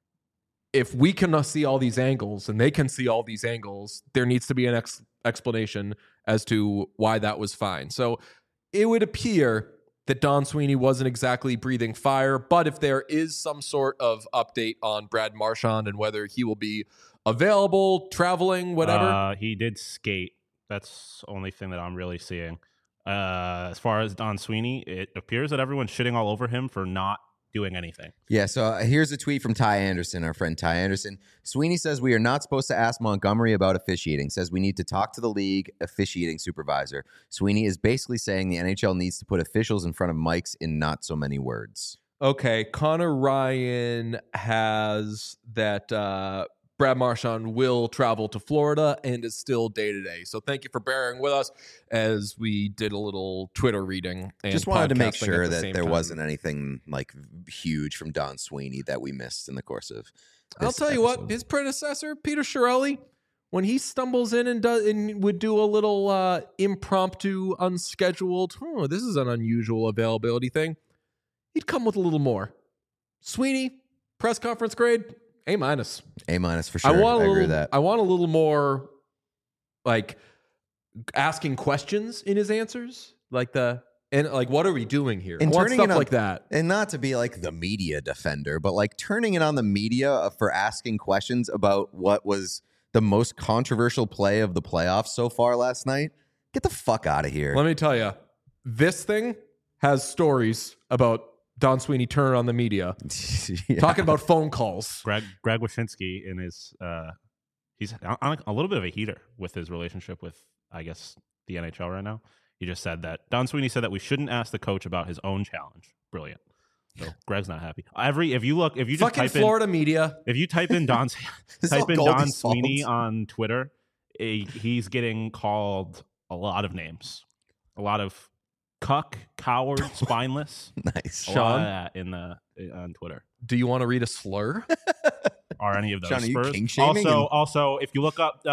if we can see all these angles and they can see all these angles, there needs to be an explanation as to why that was fine. So it would appear that Don Sweeney wasn't exactly breathing fire, but if there is some sort of update on Brad Marchand and whether he will be available, traveling, whatever. He did skate. That's the only thing that I'm really seeing. As far as Don Sweeney, it appears that everyone's shitting all over him for not doing anything. Yeah, so here's a tweet from Ty Anderson, our friend Ty Anderson. Sweeney says we are not supposed to ask Montgomery about officiating. Says we need to talk to the league officiating supervisor. Sweeney is basically saying the NHL needs to put officials in front of mics in not so many words. Okay, Connor Ryan has that Brad Marchand will travel to Florida and is still day-to-day. So thank you for bearing with us as we did a little Twitter reading. And just wanted to make podcasting sure at the that same there time. wasn't anything like huge from Don Sweeney that we missed in the course of this I'll tell you what, episode. his predecessor, Peter Chiarelli, when he stumbles in and would do a little impromptu, unscheduled, this is an unusual availability thing, he'd come with a little more. Sweeney, press conference grade, A-. A- for sure. I agree with that. I want a little more, like, asking questions in his answers, like what are we doing here? And I want turning stuff it on, like that. And not to be like the media defender, but like turning it on the media for asking questions about what was the most controversial play of the playoffs so far last night. Get the fuck out of here. Let me tell you, this thing has stories about Don Sweeney turning on the media, Yeah. talking about phone calls. Greg Wyshynski in his he's on a little bit of a heater with his relationship with, I guess, the NHL right now. He just said that Don Sweeney said that we shouldn't ask the coach about his own challenge. Brilliant. So Greg's not happy. If you just Fucking type Florida media. if you type in Don This is all Don Goldie's Sweeney fault. on Twitter, he's getting called a lot of names, a lot of cuck, coward, spineless. Nice. A lot of that on Twitter. Do you want to read a slur? Are any of those Sean, are you Spurs? king-shaming? Also, if you look up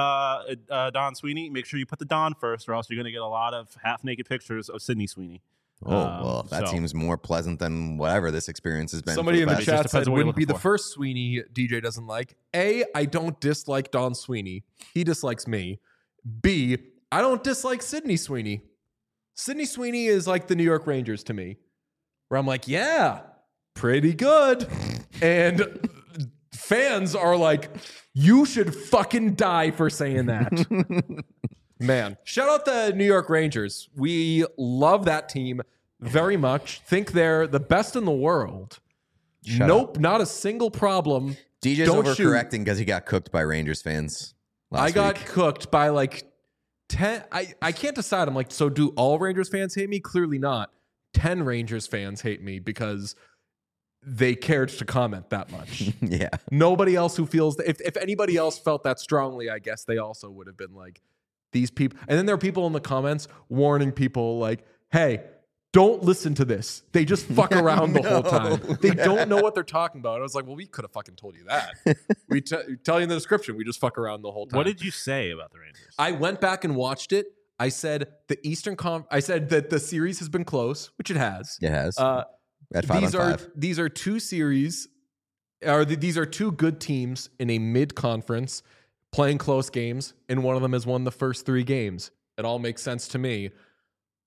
Don Sweeney, make sure you put the Don first, or else you're going to get a lot of half-naked pictures of Sidney Sweeney. Oh, well, that so- seems more pleasant than whatever this experience has been. Somebody for in the the past- chat depends said on what you're wouldn't be looking the for. first Sweeney DJ doesn't like. A, I don't dislike Don Sweeney. He dislikes me. B, I don't dislike Sidney Sweeney. Sidney Sweeney is like the New York Rangers to me, where I'm like, yeah, pretty good. And fans are like, you should fucking die for saying that. Man, shout out the New York Rangers. We love that team very much. Think they're the best in the world. Shut Not a single problem. DJ's Don't overcorrecting because he got cooked by Rangers fans. I got week. cooked by like 10. I can't decide. I'm like, so do all Rangers fans hate me? Clearly not. 10 Rangers fans hate me because they cared to comment that much. Yeah. Nobody else who feels if anybody else felt that strongly, I guess they also would have been like, these people. And then there are people in the comments warning people like, hey, don't listen to this. They just fuck around the whole time. They don't know what they're talking about. I was like, well, we could have fucking told you that. We tell you in the description, we just fuck around the whole time. What did you say about the Rangers? I went back and watched it. I said I said that the series has been close, which it has. It has. At These 5-on-5. these are two series, these are two good teams in a mid-conference playing close games, and one of them has won the first 3 games. It all makes sense to me.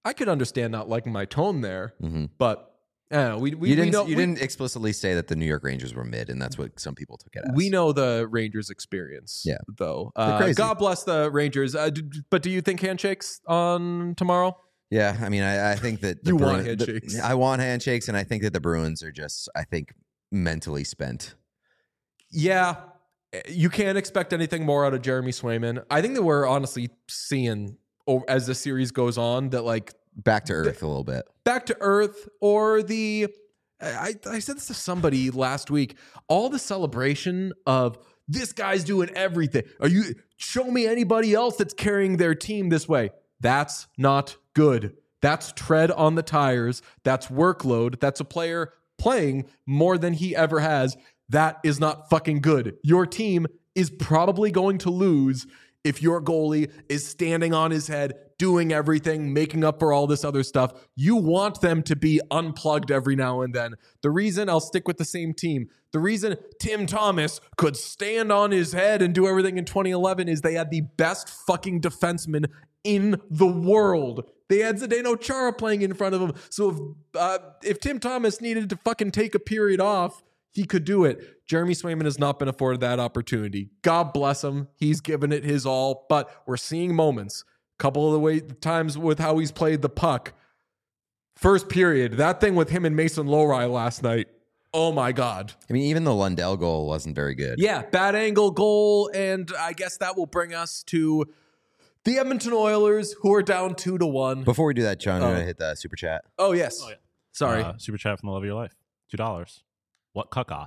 I could understand not liking my tone there, Mm-hmm. but we didn't explicitly say that the New York Rangers were mid, and that's what some people took it as. We know the Rangers' experience, Yeah. though. They're crazy. God bless the Rangers. But do you think handshakes on tomorrow? Yeah, I mean, I think that You want handshakes. I want handshakes, and I think that the Bruins are just, I think, mentally spent. Yeah, you can't expect anything more out of Jeremy Swayman. I think that we're honestly seeing, as the series goes on, that like Back to earth a little bit. back to earth, or I said this to somebody last week, all the celebration of this guy's doing everything. Show me anybody else that's carrying their team this way. That's not good. That's tread on the tires. That's workload. That's a player playing more than he ever has. That is not fucking good. Your team is probably going to lose if your goalie is standing on his head, doing everything, making up for all this other stuff. You want them to be unplugged every now and then. The reason, I'll stick with the same team, the reason Tim Thomas could stand on his head and do everything in 2011 is they had the best fucking defenseman in the world. They had Zdeno Chara playing in front of him. So if Tim Thomas needed to fucking take a period off, he could do it. Jeremy Swayman has not been afforded that opportunity. God bless him. He's given it his all, but we're seeing moments. A couple of the times with how he's played the puck. First period, that thing with him and Mason Lowry last night. Oh my God. I mean, even the Lundell goal wasn't very good. Yeah, bad angle goal, and I guess that will bring us to the Edmonton Oilers, who are down 2-1. Before we do that, John, you want to hit the super chat? Oh, yes. Oh, yeah. Sorry. Super chat from the love of your life. $2. What chaos?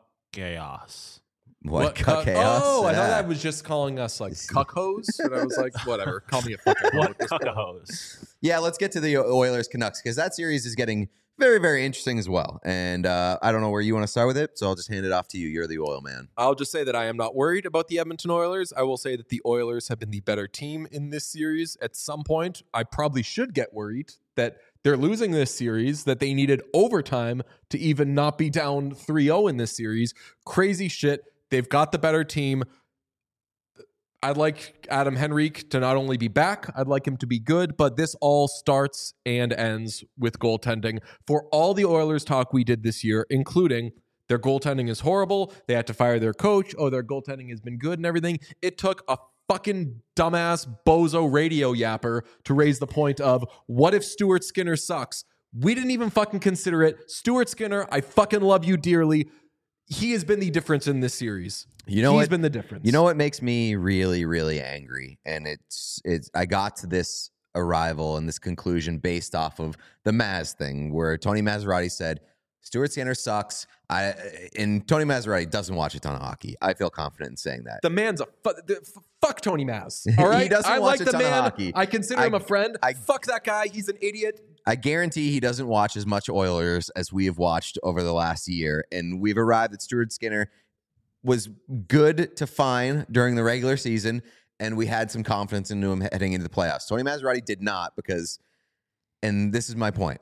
What cuck- chaos? Oh, I thought Yeah. that was just calling us like cuckhos. And I was like, whatever. Call me a fucking What cuckahos? Yeah, let's get to the Oilers Canucks, because that series is getting very, very interesting as well. And I don't know where you want to start with it, so I'll just hand it off to you. You're the oil man. I'll just say that I am not worried about the Edmonton Oilers. I will say that the Oilers have been the better team in this series. At some point, I probably should get worried that they're losing this series, that they needed overtime to even not be down 3-0 in this series. Crazy shit. They've got the better team. I'd like Adam Henrique to not only be back, I'd like him to be good, but this all starts and ends with goaltending. For all the Oilers talk we did this year, including their goaltending is horrible, they had to fire their coach, their goaltending has been good and everything, it took a fucking dumbass bozo radio yapper to raise the point of, what if Stuart Skinner sucks? We didn't even fucking consider it. Stuart Skinner, I fucking love you dearly. He has been the difference in this series. He's been the difference. You know what makes me really, really angry? And it's I got to this arrival and this conclusion based off of the Maz thing, where Tony Maserati said, Stuart Skinner sucks. And Tony Maserati doesn't watch a ton of hockey. I feel confident in saying that. The man's fuck Tony Maz. All right, He doesn't I watch like a the ton of man. hockey. I consider him a friend. Fuck that guy. He's an idiot. I guarantee he doesn't watch as much Oilers as we have watched over the last year. And we've arrived at Stuart Skinner was good to fine during the regular season, and we had some confidence into him heading into the playoffs. Tony Maserati did not, because, and this is my point,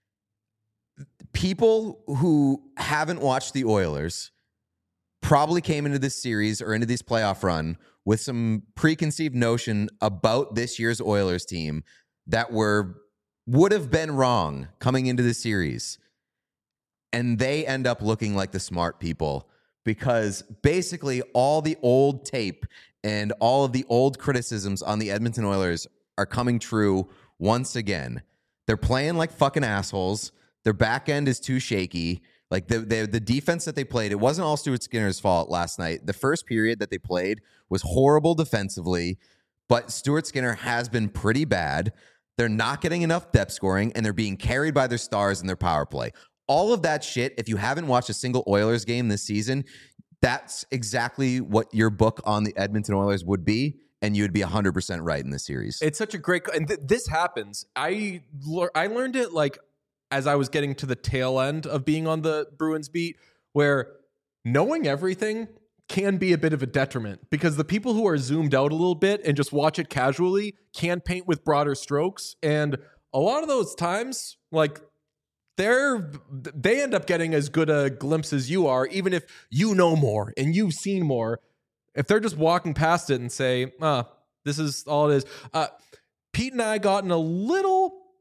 people who haven't watched the Oilers probably came into this series or into this playoff run with some preconceived notion about this year's Oilers team that would have been wrong coming into the series. And they end up looking like the smart people, because basically all the old tape and all of the old criticisms on the Edmonton Oilers are coming true once again. They're playing like fucking assholes. Their back end is too shaky. Like the defense that they played, it wasn't all Stuart Skinner's fault last night. The first period that they played was horrible defensively, but Stuart Skinner has been pretty bad. They're not getting enough depth scoring, and they're being carried by their stars in their power play. All of that shit, if you haven't watched a single Oilers game this season, that's exactly what your book on the Edmonton Oilers would be, and you would be 100% right in this series. It's such a great, and this happens. I learned it like as I was getting to the tail end of being on the Bruins beat, where knowing everything can be a bit of a detriment, because the people who are zoomed out a little bit and just watch it casually can paint with broader strokes. And a lot of those times, like, they end up getting as good a glimpse as you are, even if you know more and you've seen more. If they're just walking past it and say, this is all it is. Pete and I got in a little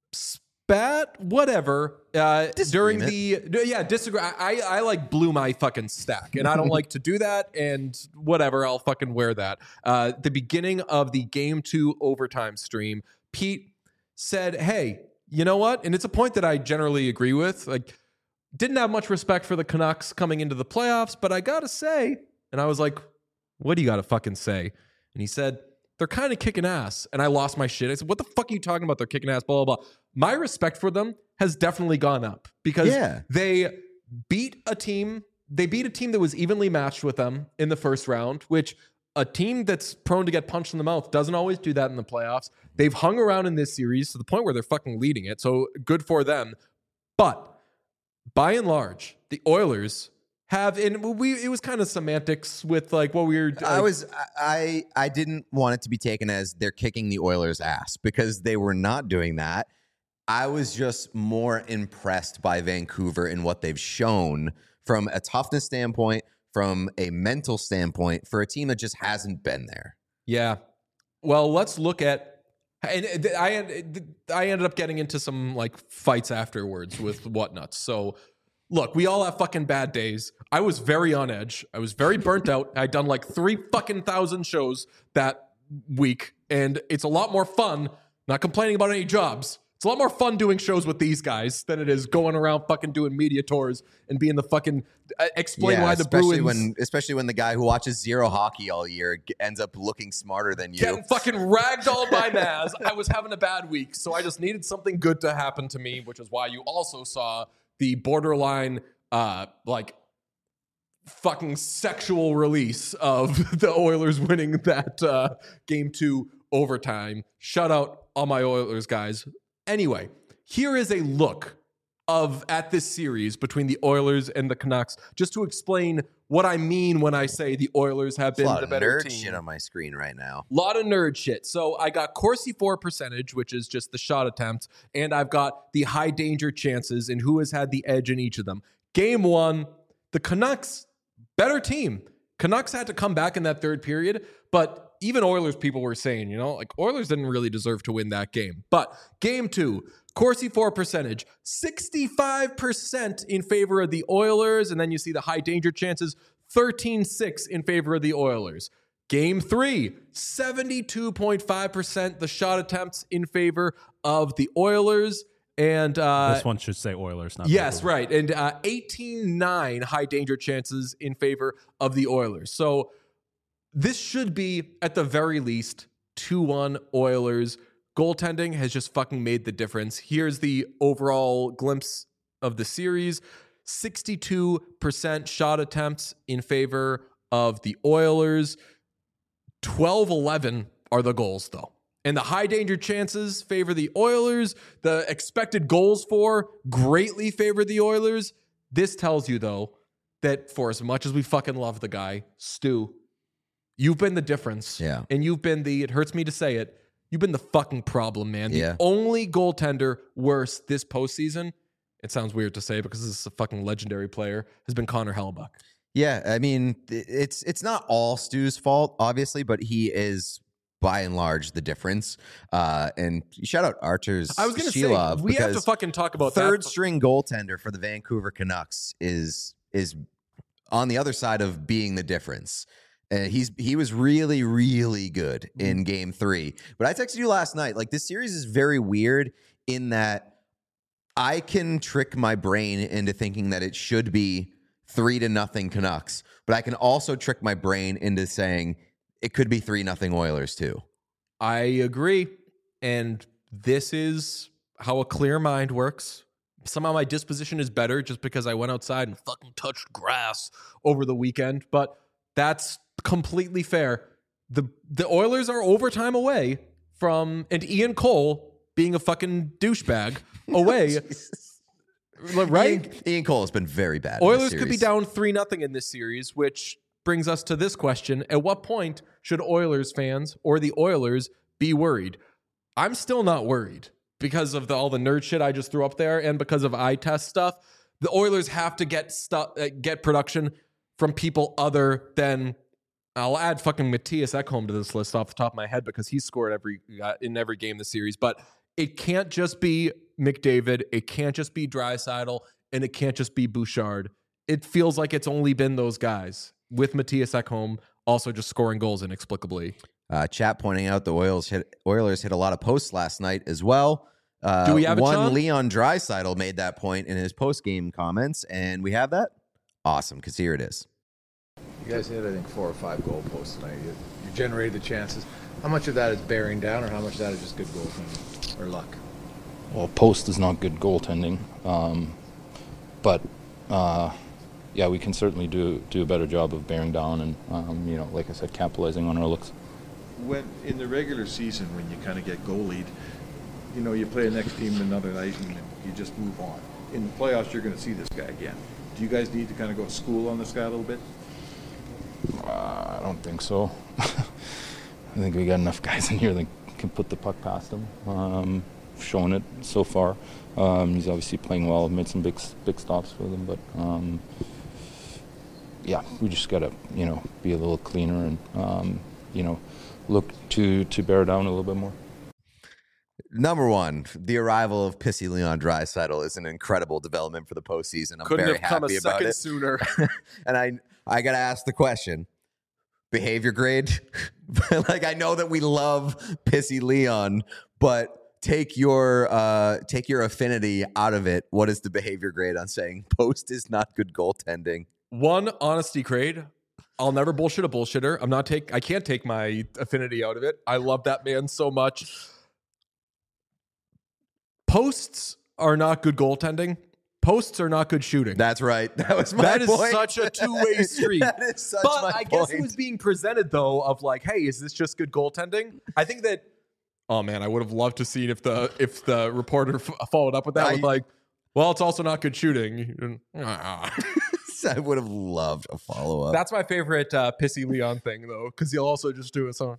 spat whatever during Disagreement. the disagree. I like blew my fucking stack, and I don't like to do that. And whatever, I'll fucking wear that. The beginning of the Game 2 overtime stream, Pete said, "Hey, you know what?" And it's a point that I generally agree with. Like, didn't have much respect for the Canucks coming into the playoffs, but I gotta say, and I was like, "What do you gotta fucking say?" And he said, "They're kind of kicking ass." And I lost my shit. I said, "What the fuck are you talking about? They're kicking ass, blah, blah, blah." My respect for them has definitely gone up because they beat a team. They beat a team that was evenly matched with them in the first round, which a team that's prone to get punched in the mouth doesn't always do that in the playoffs. They've hung around in this series to the point where they're fucking leading it. So good for them. But by and large, the Oilers have, and it was kind of semantics with like what we were. I didn't want it to be taken as they're kicking the Oilers' ass because they were not doing that. I was just more impressed by Vancouver and what they've shown from a toughness standpoint, from a mental standpoint, for a team that just hasn't been there. Yeah. Well, let's look at. And I ended up getting into some like fights afterwards with whatnots. So. Look, we all have fucking bad days. I was very on edge. I was very burnt out. I'd done like 3,000 shows that week, and it's a lot more fun, not complaining about any jobs. It's a lot more fun doing shows with these guys than it is going around fucking doing media tours and being the fucking explain why the Bruins. Especially when the guy who watches zero hockey all year ends up looking smarter than you. Getting fucking ragdolled by Maz. I was having a bad week, so I just needed something good to happen to me, which is why you also saw the borderline, like, fucking sexual release of the Oilers winning that Game 2 overtime. Shout out all my Oilers guys. Anyway, here is a look at this series between the Oilers and the Canucks, just to explain what I mean when I say the Oilers have been the better team. There's a lot of nerd shit on my screen right now. A lot of nerd shit. So I got Corsi for percentage, which is just the shot attempts, and I've got the high danger chances and who has had the edge in each of them. Game 1, the Canucks, better team. Canucks had to come back in that third period, but even Oilers people were saying, like Oilers didn't really deserve to win that game. But Game 2, Corsi for percentage, 65% in favor of the Oilers. And then you see the high danger chances, 13-6 in favor of the Oilers. Game 3, 72.5% the shot attempts in favor of the Oilers. And this one should say Oilers, not yes, Vancouver. right. And 18-9 high danger chances in favor of the Oilers. So this should be, at the very least, 2-1 Oilers. Goaltending has just fucking made the difference. Here's the overall glimpse of the series. 62% shot attempts in favor of the Oilers. 12-11 are the goals, though. And the high danger chances favor the Oilers. The expected goals for greatly favor the Oilers. This tells you, though, that for as much as we fucking love the guy, Stu, you've been the difference. Yeah. And you've been it hurts me to say it, you've been the fucking problem, man. Yeah. The only goaltender worse this postseason, it sounds weird to say because this is a fucking legendary player, has been Connor Hellebuyck. Yeah, I mean, it's not all Stu's fault, obviously, but he is by and large the difference. And shout out Archer's I was going to say, we have to fucking talk about third that. string goaltender for the Vancouver Canucks is on the other side of being the difference. He was really, really good in Game 3. But I texted you last night, like, this series is very weird in that I can trick my brain into thinking that it should be 3-0 Canucks, but I can also trick my brain into saying it could be 3-0 Oilers too. I agree. And this is how a clear mind works. Somehow my disposition is better just because I went outside and fucking touched grass over the weekend. But that's completely fair. The Oilers are overtime away from, and Ian Cole being a fucking douchebag away. Right? Ian Cole has been very bad. Oilers could be down 3-0 in this series, which brings us to this question. At what point should Oilers fans or the Oilers be worried? I'm still not worried because of all the nerd shit I just threw up there and because of eye test stuff. The Oilers have to get production from people other than, I'll add fucking Matthias Ekholm to this list off the top of my head because he's scored in every game this series. But it can't just be McDavid, it can't just be Draisaitl, and it can't just be Bouchard. It feels like it's only been those guys, with Matthias Ekholm also just scoring goals inexplicably. Chat pointing out the Oilers hit a lot of posts last night as well. Do we have it, Sean? Leon Draisaitl made that point in his post-game comments, and we have that? Awesome, because here it is. You guys hit, I think, 4 or 5 goal posts tonight. You generated the chances. How much of that is bearing down, or how much of that is just good goaltending or luck? Well, post is not good goaltending, but yeah, we can certainly do a better job of bearing down and like I said, capitalizing on our looks. When in the regular season, when you kind of get goalied, you play the next team another night and you just move on. In the playoffs, you're going to see this guy again. Do you guys need to kind of go to school on this guy a little bit? I don't think so. I think we got enough guys in here that can put the puck past him. Shown it so far. He's obviously playing well. Made some big stops with him, but yeah, we just gotta be a little cleaner and look to bear down a little bit more. Number one, the arrival of Pissy Leon Draisaitl is an incredible development for the postseason. I'm Couldn't very have come happy a about second it. sooner. And I got to ask the question, behavior grade? Like, I know that we love Pissy Leon, but take your affinity out of it. What is the behavior grade on saying post is not good goaltending? 1, honesty grade. I'll never bullshit a bullshitter. I can't take my affinity out of it. I love that man so much. Posts are not good goaltending. Posts are not good shooting. That's right. That was my point. point. That is such a two-way street. That is such but my I point. guess it was being presented, though, of like, hey, is this just good goaltending? I think that, oh, man, I would have loved to see if the reporter followed up with that with like, well, it's also not good shooting. I would have loved a follow-up. That's my favorite Pissy Leon thing, though, because he'll also just do it so,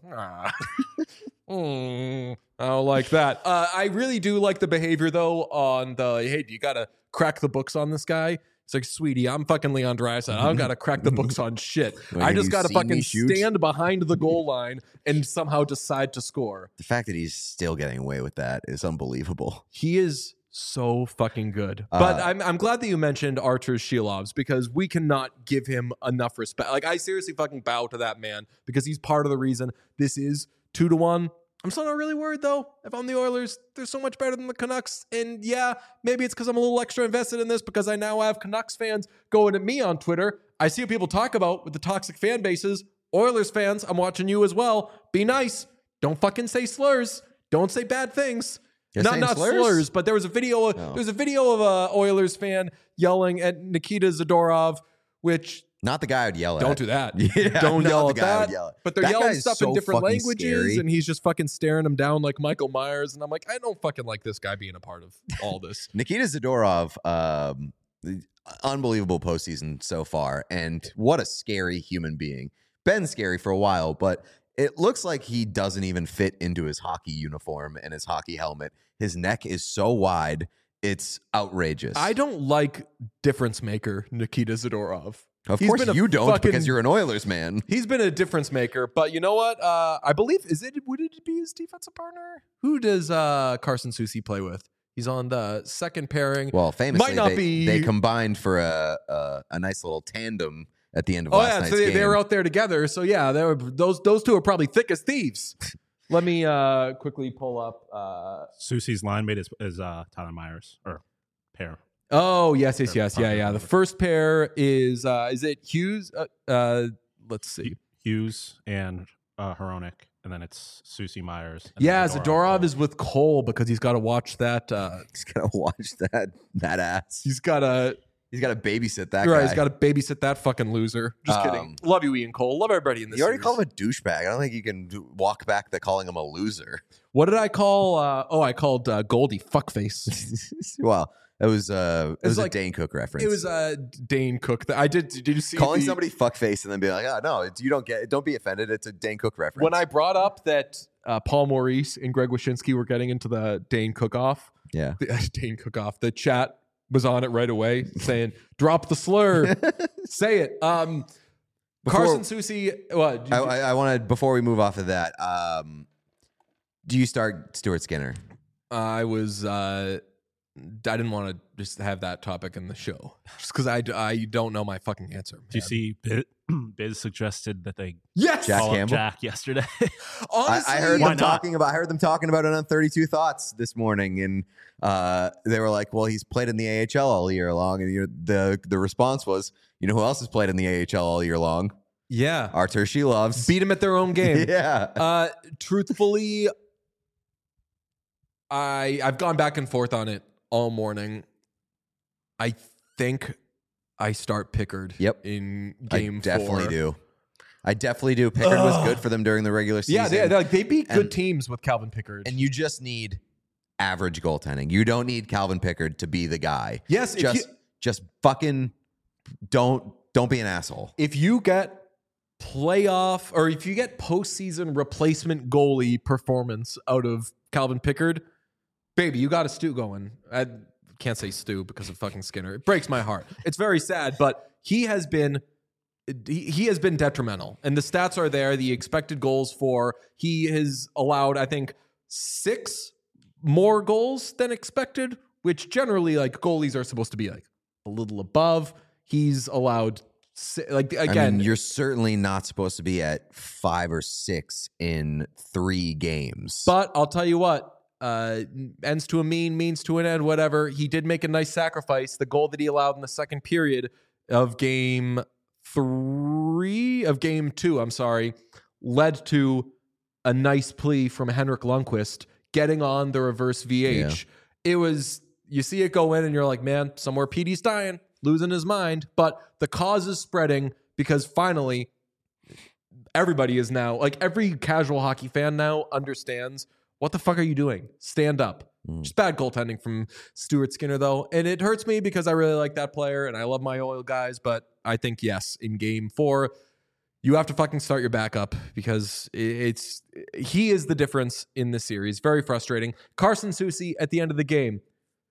I don't like that. I really do like the behavior, though, on the, hey, you got to crack the books on this guy. It's like, sweetie, I'm fucking Leon Draisaitl. I don't got to crack the books on shit. I just got to fucking stand behind the goal line and somehow decide to score. The fact that he's still getting away with that is unbelievable. He is so fucking good. But I'm glad that you mentioned Artur Shilovs, because we cannot give him enough respect. Like, I seriously fucking bow to that man, because he's part of the reason this is 2-1. I'm still not really worried, though. If I'm the Oilers, they're so much better than the Canucks. And yeah, maybe it's because I'm a little extra invested in this, because I now have Canucks fans going at me on Twitter. I see what people talk about with the toxic fan bases. Oilers fans, I'm watching you as well. Be nice. Don't fucking say slurs. Don't say bad things. Not slurs, but there was a video. There was a video of a Oilers fan yelling at Nikita Zadorov, which not the guy I'd yell at. Don't do that. Yeah, don't yell at that. Yell at. But they're that yelling stuff in different languages, scary. And he's just fucking staring him down like Michael Myers. And I'm like, I don't fucking like this guy being a part of all this. Nikita Zadorov, unbelievable postseason so far, and what a scary human being. Been scary for a while, but it looks like he doesn't even fit into his hockey uniform and his hockey helmet. His neck is so wide, it's outrageous. I don't like difference maker Nikita Zadorov. Of course you don't, because you're an Oilers man. He's been a difference maker, but you know what? I believe, would it be his defensive partner? Who does Carson Soucy play with? He's on the second pairing. Well, famously, Might not be... they combined for a nice little tandem at the end of last night's game. They were out there together. So yeah, those two are probably thick as thieves. Let me quickly pull up. Soucy's line mate is Tyler Myers, or pair. Oh, yes. Yeah. The first pair is it Hughes? Let's see. Hughes and Hronek, and then it's Soucy Myers. Yeah, Zadorov is with Cole, because he's got to watch that. He's got to watch that ass. He's got to babysit that guy. Right, he's got to babysit that fucking loser. Just kidding. Love you, Ian Cole. Love everybody in this. You already series. called him a douchebag. I don't think you can walk back to calling him a loser. What did I call? I called Goldie fuckface. Well, it was like a Dane Cook reference. It was Dane Cook. Did you see calling somebody fuckface and then being like, oh no, you don't get it. Don't be offended. It's a Dane Cook reference. When I brought up that Paul Maurice and Greg Wyshynski were getting into the Dane Cook-off, Dane Cook-off, the chat was on it right away saying, drop the slur. Say it. Carson Soucy. What? I wanted, before we move off of that, do you start Stuart Skinner? I was. I didn't want to just have that topic in the show, just because I don't know my fucking answer. Do you see Biz suggested that they Yes! Jack call up Campbell? Jack yesterday? Honestly, I heard why them not? talking about. I heard them talking about it on 32 Thoughts this morning, and they were like, "Well, he's played in the AHL all year long," and the response was, "You know who else has played in the AHL all year long? yeah, Artur Shilovs." beat him at their own game. Yeah. Truthfully, I've gone back and forth on it all morning. I think I start Pickard. Yep. In game 4. I definitely do. Pickard was good for them during the regular season. Yeah, they beat good And- teams with Calvin Pickard. And you just need average goaltending. You don't need Calvin Pickard to be the guy. Yes, just fucking don't be an asshole. if you get playoff or if you get postseason replacement goalie performance out of Calvin Pickard, baby, you got a stew going. I can't say stew because of fucking Skinner. It breaks my heart. It's very sad, but he has been detrimental, and the stats are there. The expected goals for he has allowed, I think, 6 more goals than expected, which generally like goalies are supposed to be like a little above. He's allowed again. I mean, you're certainly not supposed to be at 5 or 6 in 3 games. But I'll tell you what, ends to a means to an end, whatever. He did make a nice sacrifice. The goal that he allowed in the second period of game 2, led to a nice plea from Henrik Lundqvist getting on the reverse VH. It was, you see it go in and you're like, man, somewhere Petey's dying, losing his mind. But the cause is spreading because finally everybody is now, like every casual hockey fan now understands, what the fuck are you doing? Stand up. Just bad goaltending from Stuart Skinner, though. And it hurts me because I really like that player and I love my Oil guys. But I think, yes, in game 4, you have to fucking start your backup because he is the difference in this series. Very frustrating. Carson Soucy at the end of the game.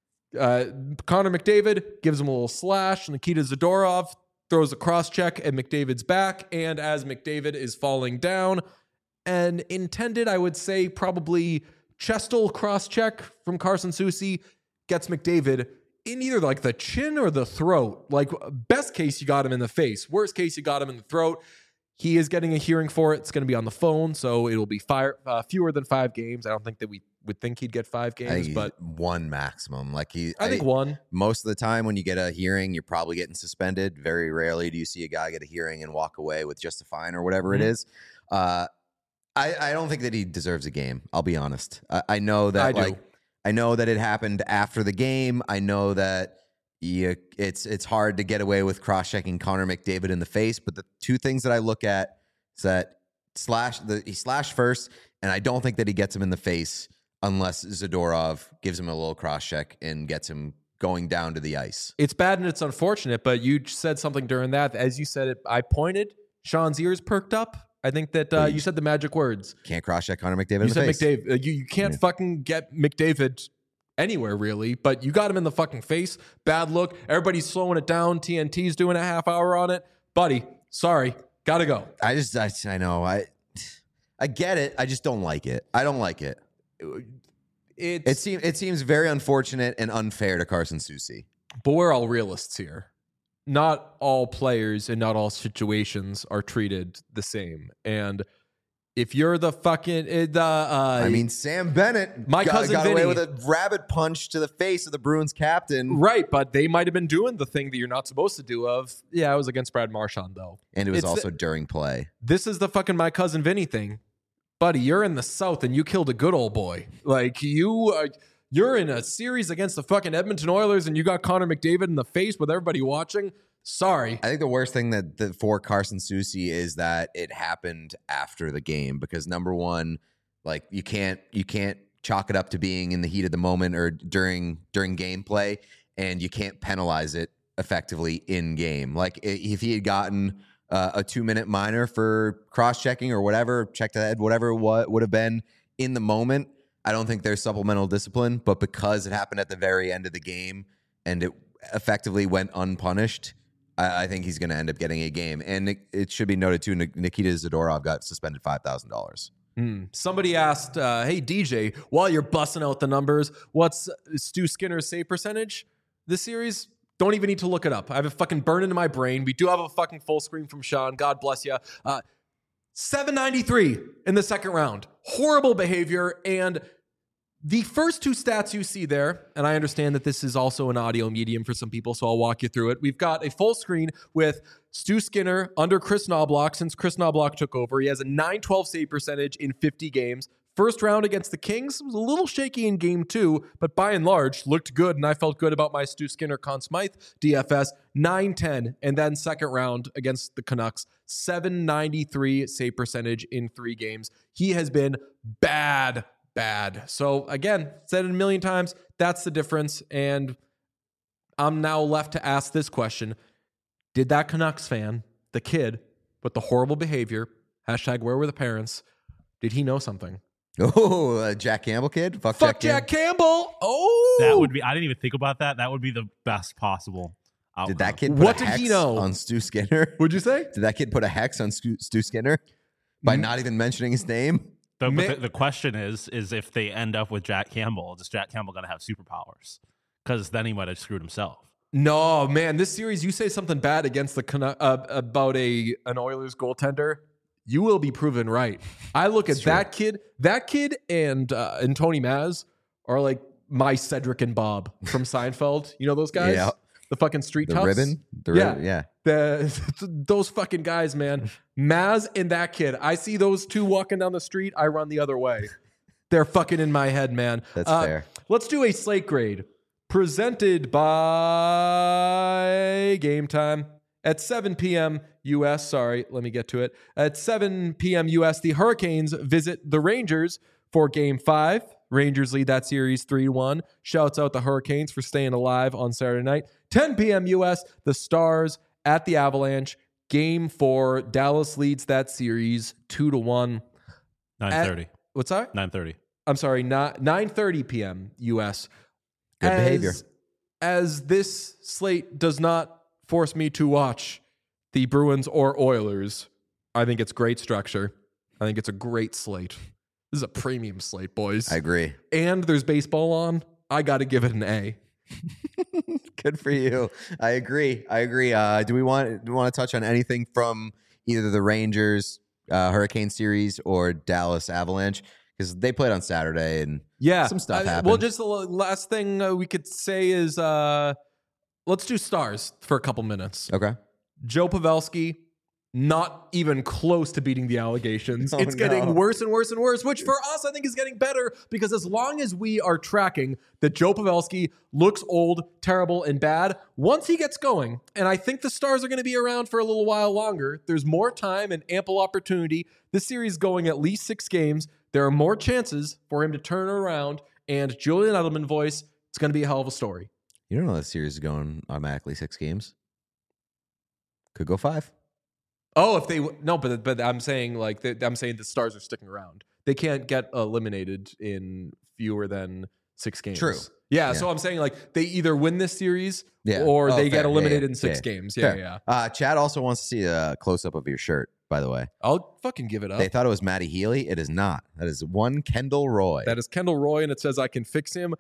Connor McDavid gives him a little slash. Nikita Zadorov throws a cross check at McDavid's back. And as McDavid is falling down, an intended, I would say, probably chestal cross check from Carson Soucy gets McDavid in either like the chin or the throat. Like best case, you got him in the face. Worst case, you got him in the throat. He is getting a hearing for it. It's going to be on the phone, so it will be fewer than 5 games. I don't think that we would think he'd get 5 games, but 1 maximum. I think 1. Most of the time when you get a hearing, you're probably getting suspended. Very rarely do you see a guy get a hearing and walk away with just a fine or whatever it is. I don't think that he deserves a game. I'll be honest. I know that I know that it happened after the game. I know that it's hard to get away with cross-checking Connor McDavid in the face. But the 2 things that I look at is that he slashed first, and I don't think that he gets him in the face unless Zadorov gives him a little cross-check and gets him going down to the ice. It's bad and it's unfortunate, but you said something during that. As you said it, I pointed. Sean's ears perked up. I think that you said the magic words. Can't cross-check Connor McDavid in the face. You said McDavid. You can't fucking get McDavid anywhere, really, but you got him in the fucking face. Bad look. Everybody's slowing it down. TNT's doing a half hour on it. Buddy, sorry. Gotta go. I know. I get it. I just don't like it. I don't like it. It seems very unfortunate and unfair to Carson Soucy. But we're all realists here. Not all players and not all situations are treated the same. And if you're the fucking Sam Bennett, my cousin got Vinny, away with a rabbit punch to the face of the Bruins captain, right? But they might have been doing the thing that you're not supposed to do. It was against Brad Marchand though, and it was also during play. This is the fucking my cousin Vinny thing, buddy. You're in the South and you killed a good old boy. Like you're in a series against the fucking Edmonton Oilers and you got Connor McDavid in the face with everybody watching. Sorry. I think the worst thing that for Carson Soucy is that it happened after the game because number one, like you can't chalk it up to being in the heat of the moment or during gameplay, and you can't penalize it effectively in game. Like if he had gotten a 2-minute minor for cross-checking or whatever, check to head, whatever what would have been in the moment, I don't think there's supplemental discipline. But because it happened at the very end of the game and it effectively went unpunished, I think he's going to end up getting a game. And it should be noted, too, Nikita Zadorov got suspended $5,000. Somebody asked, hey, DJ, while you're busting out the numbers, what's Stu Skinner's save percentage this series? Don't even need to look it up. I have it fucking burned into my brain. We do have a fucking full screen from Sean. God bless you. 793 in the second round. Horrible behavior. And the first two stats you see there, and I understand that this is also an audio medium for some people, so I'll walk you through it. We've got a full screen with Stu Skinner under Chris Knobloch. Since Chris Knobloch took over, he has a .912 save percentage in 50 games. First round against the Kings was a little shaky in game 2, but by and large looked good, and I felt good about my Stu Skinner Conn Smythe DFS, .910. And then second round against the Canucks, 793 save percentage in 3 games. He has been bad. So again, said it a million times, that's the difference. And I'm now left to ask this question. Did that Canucks fan, the kid with the horrible behavior, hashtag where were the parents, did he know something? Oh, Jack Campbell kid? Fuck Jack Campbell. Oh. That would be, I didn't even think about that. That would be the best possible outcome. Did that kid put What a did hex he know? on Stu Skinner? What'd you say? Did that kid put a hex on Stu Skinner by not even mentioning his name? But the question is if they end up with Jack Campbell, is Jack Campbell going to have superpowers? Because then he might have screwed himself. No, man. This series, you say something bad against the about an Oilers goaltender, you will be proven right. I look at that kid. That kid and Tony Maz are like my Cedric and Bob from Seinfeld. You know those guys? Yeah. The fucking street The toughs? ribbon? The ribbon, yeah. Those fucking guys, man. Maz and that kid. I see those two walking down the street. I run the other way. They're fucking in my head, man. That's fair. Let's do a slate grade presented by Game Time at 7 p.m. U.S. Sorry, let me get to it. At 7 p.m. U.S., the Hurricanes visit the Rangers for Game 5. Rangers lead that series 3-1. Shouts out the Hurricanes for staying alive on Saturday night. 10 p.m. U.S., the Stars at the Avalanche. Game 4, Dallas leads that series 2-1. 9:30. What's that? 9:30. I'm sorry, 9:30 p.m. U.S. Good behavior. As this slate does not force me to watch the Bruins or Oilers, I think it's great structure. I think it's a great slate. This is a premium slate, boys. I agree. And there's baseball on. I got to give it an A. Good for you. I agree. Do we want to touch on anything from either the Rangers Hurricane series or Dallas Avalanche? Because they played on Saturday and some stuff happened. Well, just the last thing we could say is let's do Stars for a couple minutes. Okay. Joe Pavelski, not even close to beating the allegations. It's getting worse and worse and worse, which for us, I think is getting better because as long as we are tracking that Joe Pavelski looks old, terrible, and bad, once he gets going, and I think the Stars are going to be around for a little while longer, there's more time and ample opportunity. This series going at least 6 games. There are more chances for him to turn around, and Julian Edelman voice, it's going to be a hell of a story. You don't know this series is going automatically 6 games. Could go 5. Oh, if they no, but I'm saying I'm saying the Stars are sticking around. They can't get eliminated in fewer than 6 games. True. Yeah, so I'm saying like they either win this series or they get eliminated in 6 games. Yeah. Chad also wants to see a close up of your shirt. By the way, I'll fucking give it up. They thought it was Matty Healy. It is not. That is one Kendall Roy. That is Kendall Roy, and it says I can fix him.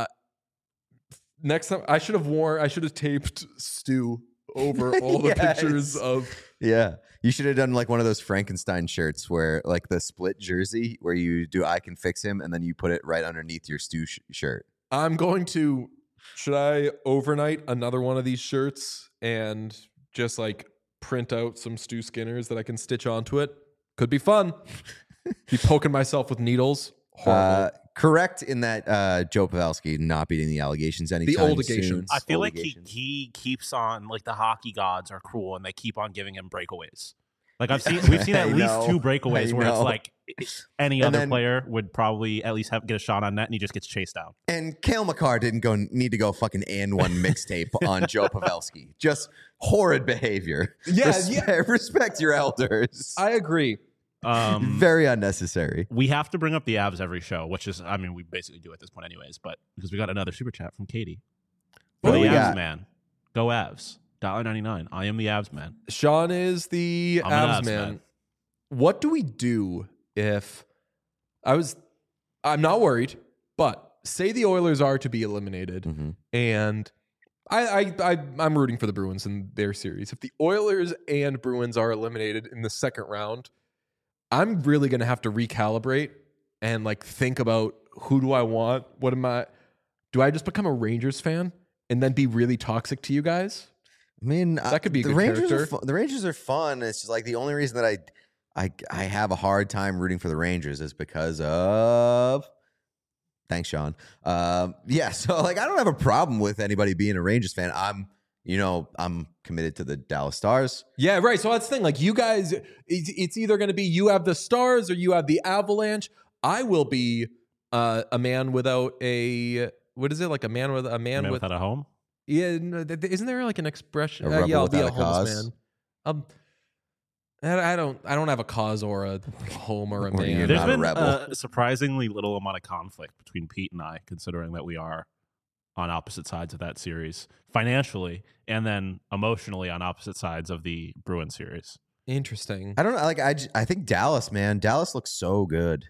Next time, I should have taped Stu over all the pictures of. Yeah. You should have done like one of those Frankenstein shirts where like the split jersey where you do I can fix him and then you put it right underneath your Stu shirt. I'm going to, should I overnight another one of these shirts and just like print out some Stu Skinners that I can stitch onto it? Could be fun. Be poking myself with needles. Horrible. Correct in that Joe Pavelski not beating the allegations anytime soon. I feel like he keeps on, like the hockey gods are cruel and they keep on giving him breakaways. Like we've seen at least 2 breakaways where it's like any other player would probably at least get a shot on net and he just gets chased out. And Cale Makar didn't need to go fucking and one mixtape on Joe Pavelski. Just horrid behavior. Respect your elders. I agree. Very unnecessary. We have to bring up the Avs every show, which is, I mean, we basically do at this point anyways, but because we got another super chat from Katie. What do we Avs got? Man. Go Avs. $1.99. I am the Avs man. Sean is the Avs man. What do we do if I'm not worried, but say the Oilers are to be eliminated, and I'm rooting for the Bruins in their series. If the Oilers and Bruins are eliminated in the second round, I'm really going to have to recalibrate and like think about who do I want? What am I? Do I just become a Rangers fan and then be really toxic to you guys? I mean, that could be a good Rangers character. The Rangers are fun. It's just like the only reason that I have a hard time rooting for the Rangers is because of. Thanks, Sean. Yeah, so like I don't have a problem with anybody being a Rangers fan. I'm committed to the Dallas Stars. Yeah, right. So that's the thing. Like you guys, it's either going to be you have the Stars or you have the Avalanche. I will be a man without a what is it like a man without a home? Yeah, no, isn't there like an expression? A Yeah, I'll be without a a homeless cause? man. I don't have a cause or a home or a Or man. you're There's not a been rebel. a surprisingly little amount of conflict between Pete and I, considering that we are on opposite sides of that series financially and then emotionally on opposite sides of the Bruins series. Interesting. I don't know. Like I think Dallas, man. Dallas looks so good.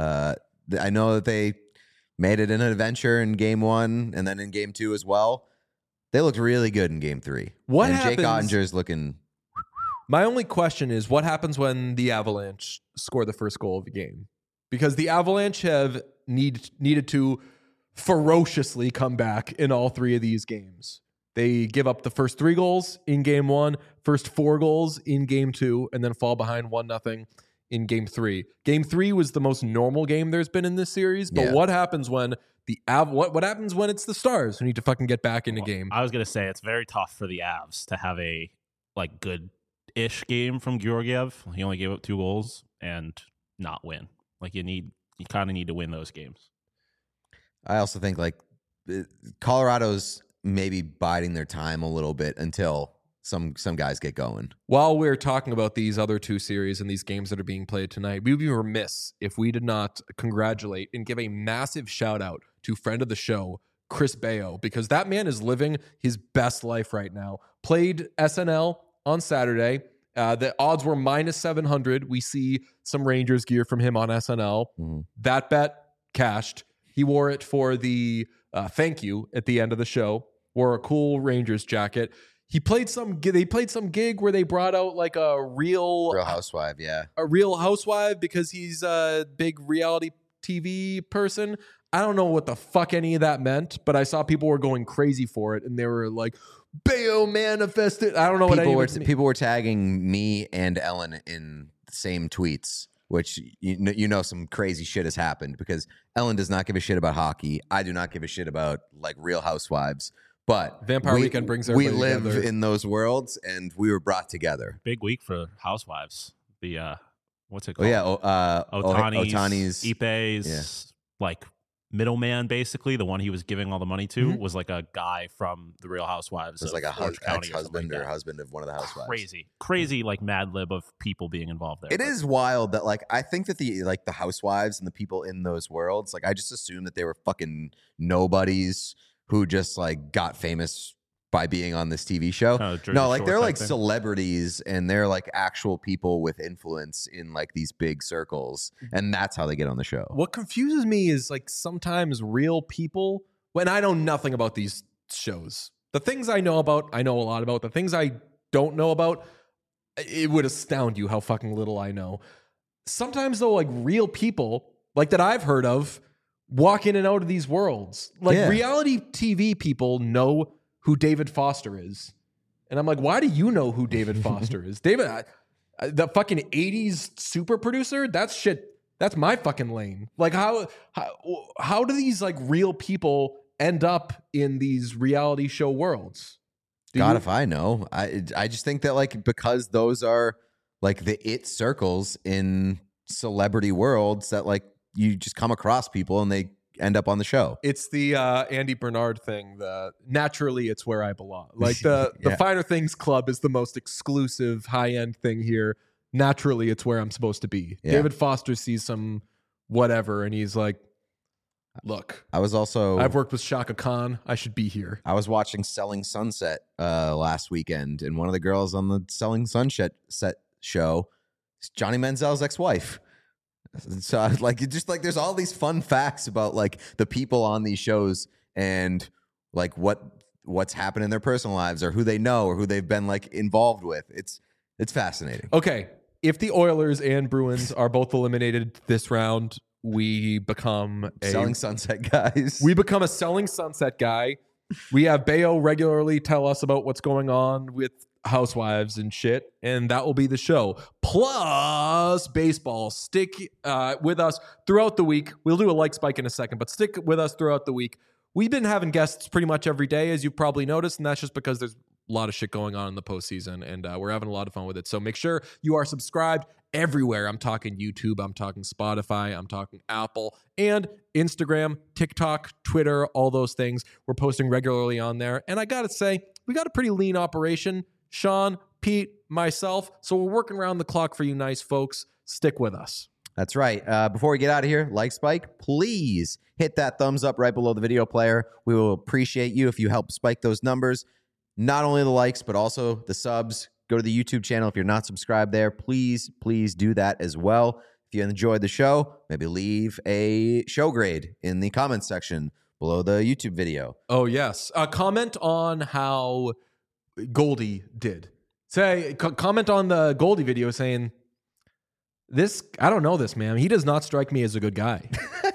I know that they made it in an adventure in game 1 and then in game 2 as well. They looked really good in game 3. What and happens? Jake Ottinger's looking. My only question is what happens when the Avalanche score the first goal of the game? Because the Avalanche have needed to ferociously come back in all 3 of these games. They give up the first 3 goals in game 1, first 4 goals in game 2, and then fall behind 1-0 in game 3. Game 3 was the most normal game there's been in this series. But Yeah. what happens when what happens when it's the Stars who need to fucking get back in the game? I was going to say it's very tough for the Avs to have a like good-ish game from Georgiev. He only gave up 2 goals and not win. Like you kind of need to win those games. I also think like Colorado's maybe biding their time a little bit until some guys get going. While we're talking about these other 2 series and these games that are being played tonight, we would be remiss if we did not congratulate and give a massive shout out to friend of the show, Chris Bayo, because that man is living his best life right now. Played SNL on Saturday. The odds were -700. We see some Rangers gear from him on SNL. That bet cashed. He wore it for the thank you at the end of the show. Wore a cool Rangers jacket. They played some gig where they brought out like a real housewife, yeah. A real housewife because he's a big reality TV person. I don't know what the fuck any of that meant, but I saw people were going crazy for it and they were like, Bayo manifested. I don't know People were tagging me and Ellen in the same tweets, which you know some crazy shit has happened because Ellen does not give a shit about hockey. I do not give a shit about like Real Housewives. But Vampire Weekend brings everybody we live together. in those worlds, and we were brought together. Big week for Housewives. The what's it Oh called? yeah, Otani's, Ipe's, yeah. like middleman, basically the one he was giving all the money to was like a guy from the Real Housewives. It was like a ex-husband or husband of one of the housewives. Crazy like Mad Lib of people being involved there. It is wild that like I think that the housewives and the people in those worlds, like I just assumed that they were fucking nobodies who just like got famous by being on this TV show. No, like they're like celebrities and they're like actual people with influence in like these big circles, and that's how they get on the show. What confuses me is like sometimes real people, when I know nothing about these shows, the things I know about, I know a lot about. The things I don't know about, it would astound you how fucking little I know. Sometimes though, like real people like that I've heard of walk in and out of these worlds. Like reality TV people know who David Foster is. And I'm like, why do you know who David Foster is? David, the fucking 80s super producer? That's shit. That's my fucking lane. Like how do these like real people end up in these reality show worlds? If I know. I just think that like because those are like the it circles in celebrity worlds that like you just come across people and they end up on the show. It's the Andy Bernard thing. Naturally, it's where I belong. Like the Finer Things Club is the most exclusive, high-end thing here. Naturally, it's where I'm supposed to be. Yeah. David Foster sees some whatever, and he's like, look, I've worked with Shaka Khan. I should be here. I was watching Selling Sunset last weekend, and one of the girls on the Selling Sunset show is Johnny Manziel's ex-wife. So I was like, it just like there's all these fun facts about like the people on these shows and like what's happened in their personal lives or who they know or who they've been like involved with. It's fascinating. Okay, if the Oilers and Bruins are both eliminated this round, we become Selling Sunset guys. We become a Selling Sunset guy. We have Bayo regularly tell us about what's going on with housewives and shit, and that will be the show. Plus baseball. Stick with us throughout the week. We'll do a like spike in a second, but stick with us throughout the week. We've been having guests pretty much every day, as you've probably noticed, and that's just because there's a lot of shit going on in the postseason, and we're having a lot of fun with it. So make sure you are subscribed everywhere. I'm talking YouTube, I'm talking Spotify, I'm talking Apple, and Instagram, TikTok, Twitter, all those things. We're posting regularly on there. And I got to say, we got a pretty lean operation. Sean, Pete, myself. So we're working around the clock for you nice folks. Stick with us. That's right. Before we get out of here, like Spike, please hit that thumbs up right below the video player. We will appreciate you if you help spike those numbers. Not only the likes, but also the subs. Go to the YouTube channel if you're not subscribed there. Please do that as well. If you enjoyed the show, maybe leave a show grade in the comments section below the YouTube video. Oh, yes. Comment on how Goldie did. Comment on the Goldie video saying, I don't know this man. He does not strike me as a good guy.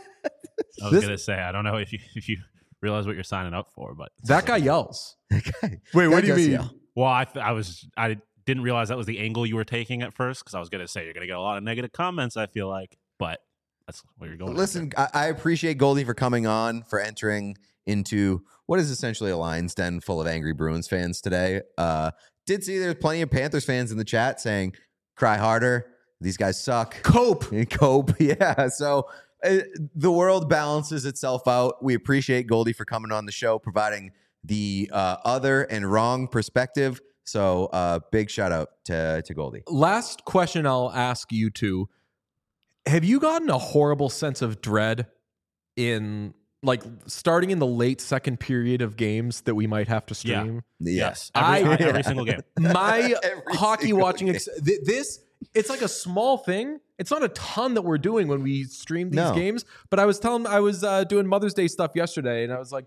I was going to say, I don't know if you realize what you're signing up for, but that guy yells. Wait, what do you mean? Yell. Well, I didn't realize that was the angle you were taking at first, because I was going to say you're going to get a lot of negative comments, I feel like, but that's where you're going. Listen, I appreciate Goldie for coming on, for entering into what is essentially a Lions den full of angry Bruins fans today. Did see there's plenty of Panthers fans in the chat saying, cry harder. These guys suck. Cope. Yeah. So the world balances itself out. We appreciate Goldie for coming on the show, providing the other and wrong perspective. So big shout out to Goldie. Last question I'll ask you two. Have you gotten a horrible sense of dread in like starting in the late second period of games that we might have to stream? Yeah. Yes. Every single game. My hockey watching it's like a small thing. It's not a ton that we're doing when we stream these games, but I was doing Mother's Day stuff yesterday, and I was like,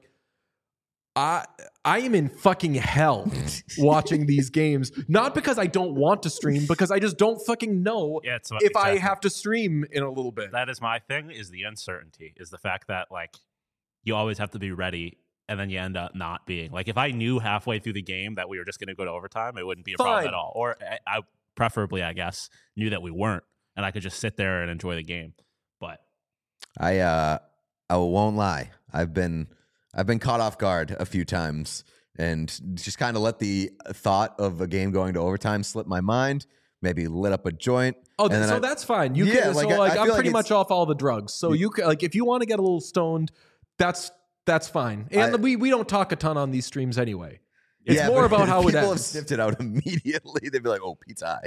I am in fucking hell watching these games. Not because I don't want to stream, because I just don't fucking know if I have to stream in a little bit. That is my thing, is the uncertainty, is the fact that like you always have to be ready, and then you end up not being. Like if I knew halfway through the game that we were just going to go to overtime, it wouldn't be a problem at all. Or I preferably, I guess, knew that we weren't, and I could just sit there and enjoy the game. But I won't lie. I've been caught off guard a few times and just kind of let the thought of a game going to overtime slip my mind. Maybe lit up a joint. Oh, so that's fine. You can. So I'm pretty much off all the drugs. So you can, like, if you want to get a little stoned, that's fine. And we don't talk a ton on these streams anyway. It's more about how it ends. People have sniffed it out immediately. They'd be like, "Oh, Pete's high."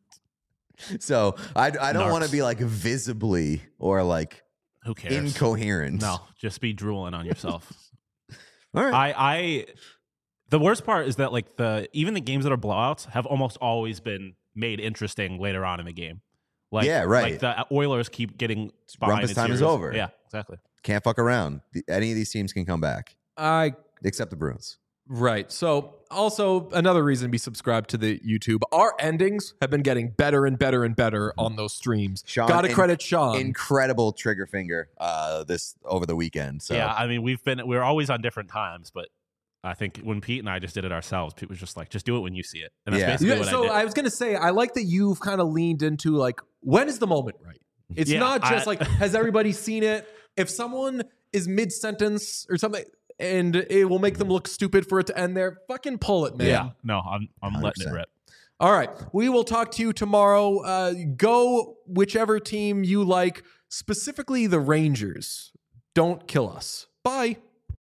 So I don't want to be like visibly or like who cares? Incoherent. No, just be drooling on yourself. All right. The worst part is that like even the games that are blowouts have almost always been made interesting later on in the game. Like, yeah, right. Like the Oilers keep getting behind. Rumpus time is over. Yeah, exactly. Can't fuck around. Any of these teams can come back. Except the Bruins. Right. So also another reason to be subscribed to the YouTube. Our endings have been getting better and better and better on those streams. Got to credit Sean. Incredible trigger finger this over the weekend. So yeah, I mean we're always on different times, but I think when Pete and I just did it ourselves, Pete was just like, just do it when you see it. And that's basically what I did. I was gonna say, I like that you've kind of leaned into like, when is the moment right? It's not just like, has everybody seen it? If someone is mid-sentence or something and it will make them look stupid for it to end there, fucking pull it, man. Yeah, no, I'm letting it rip. All right, we will talk to you tomorrow. Go whichever team you like, specifically the Rangers. Don't kill us. Bye.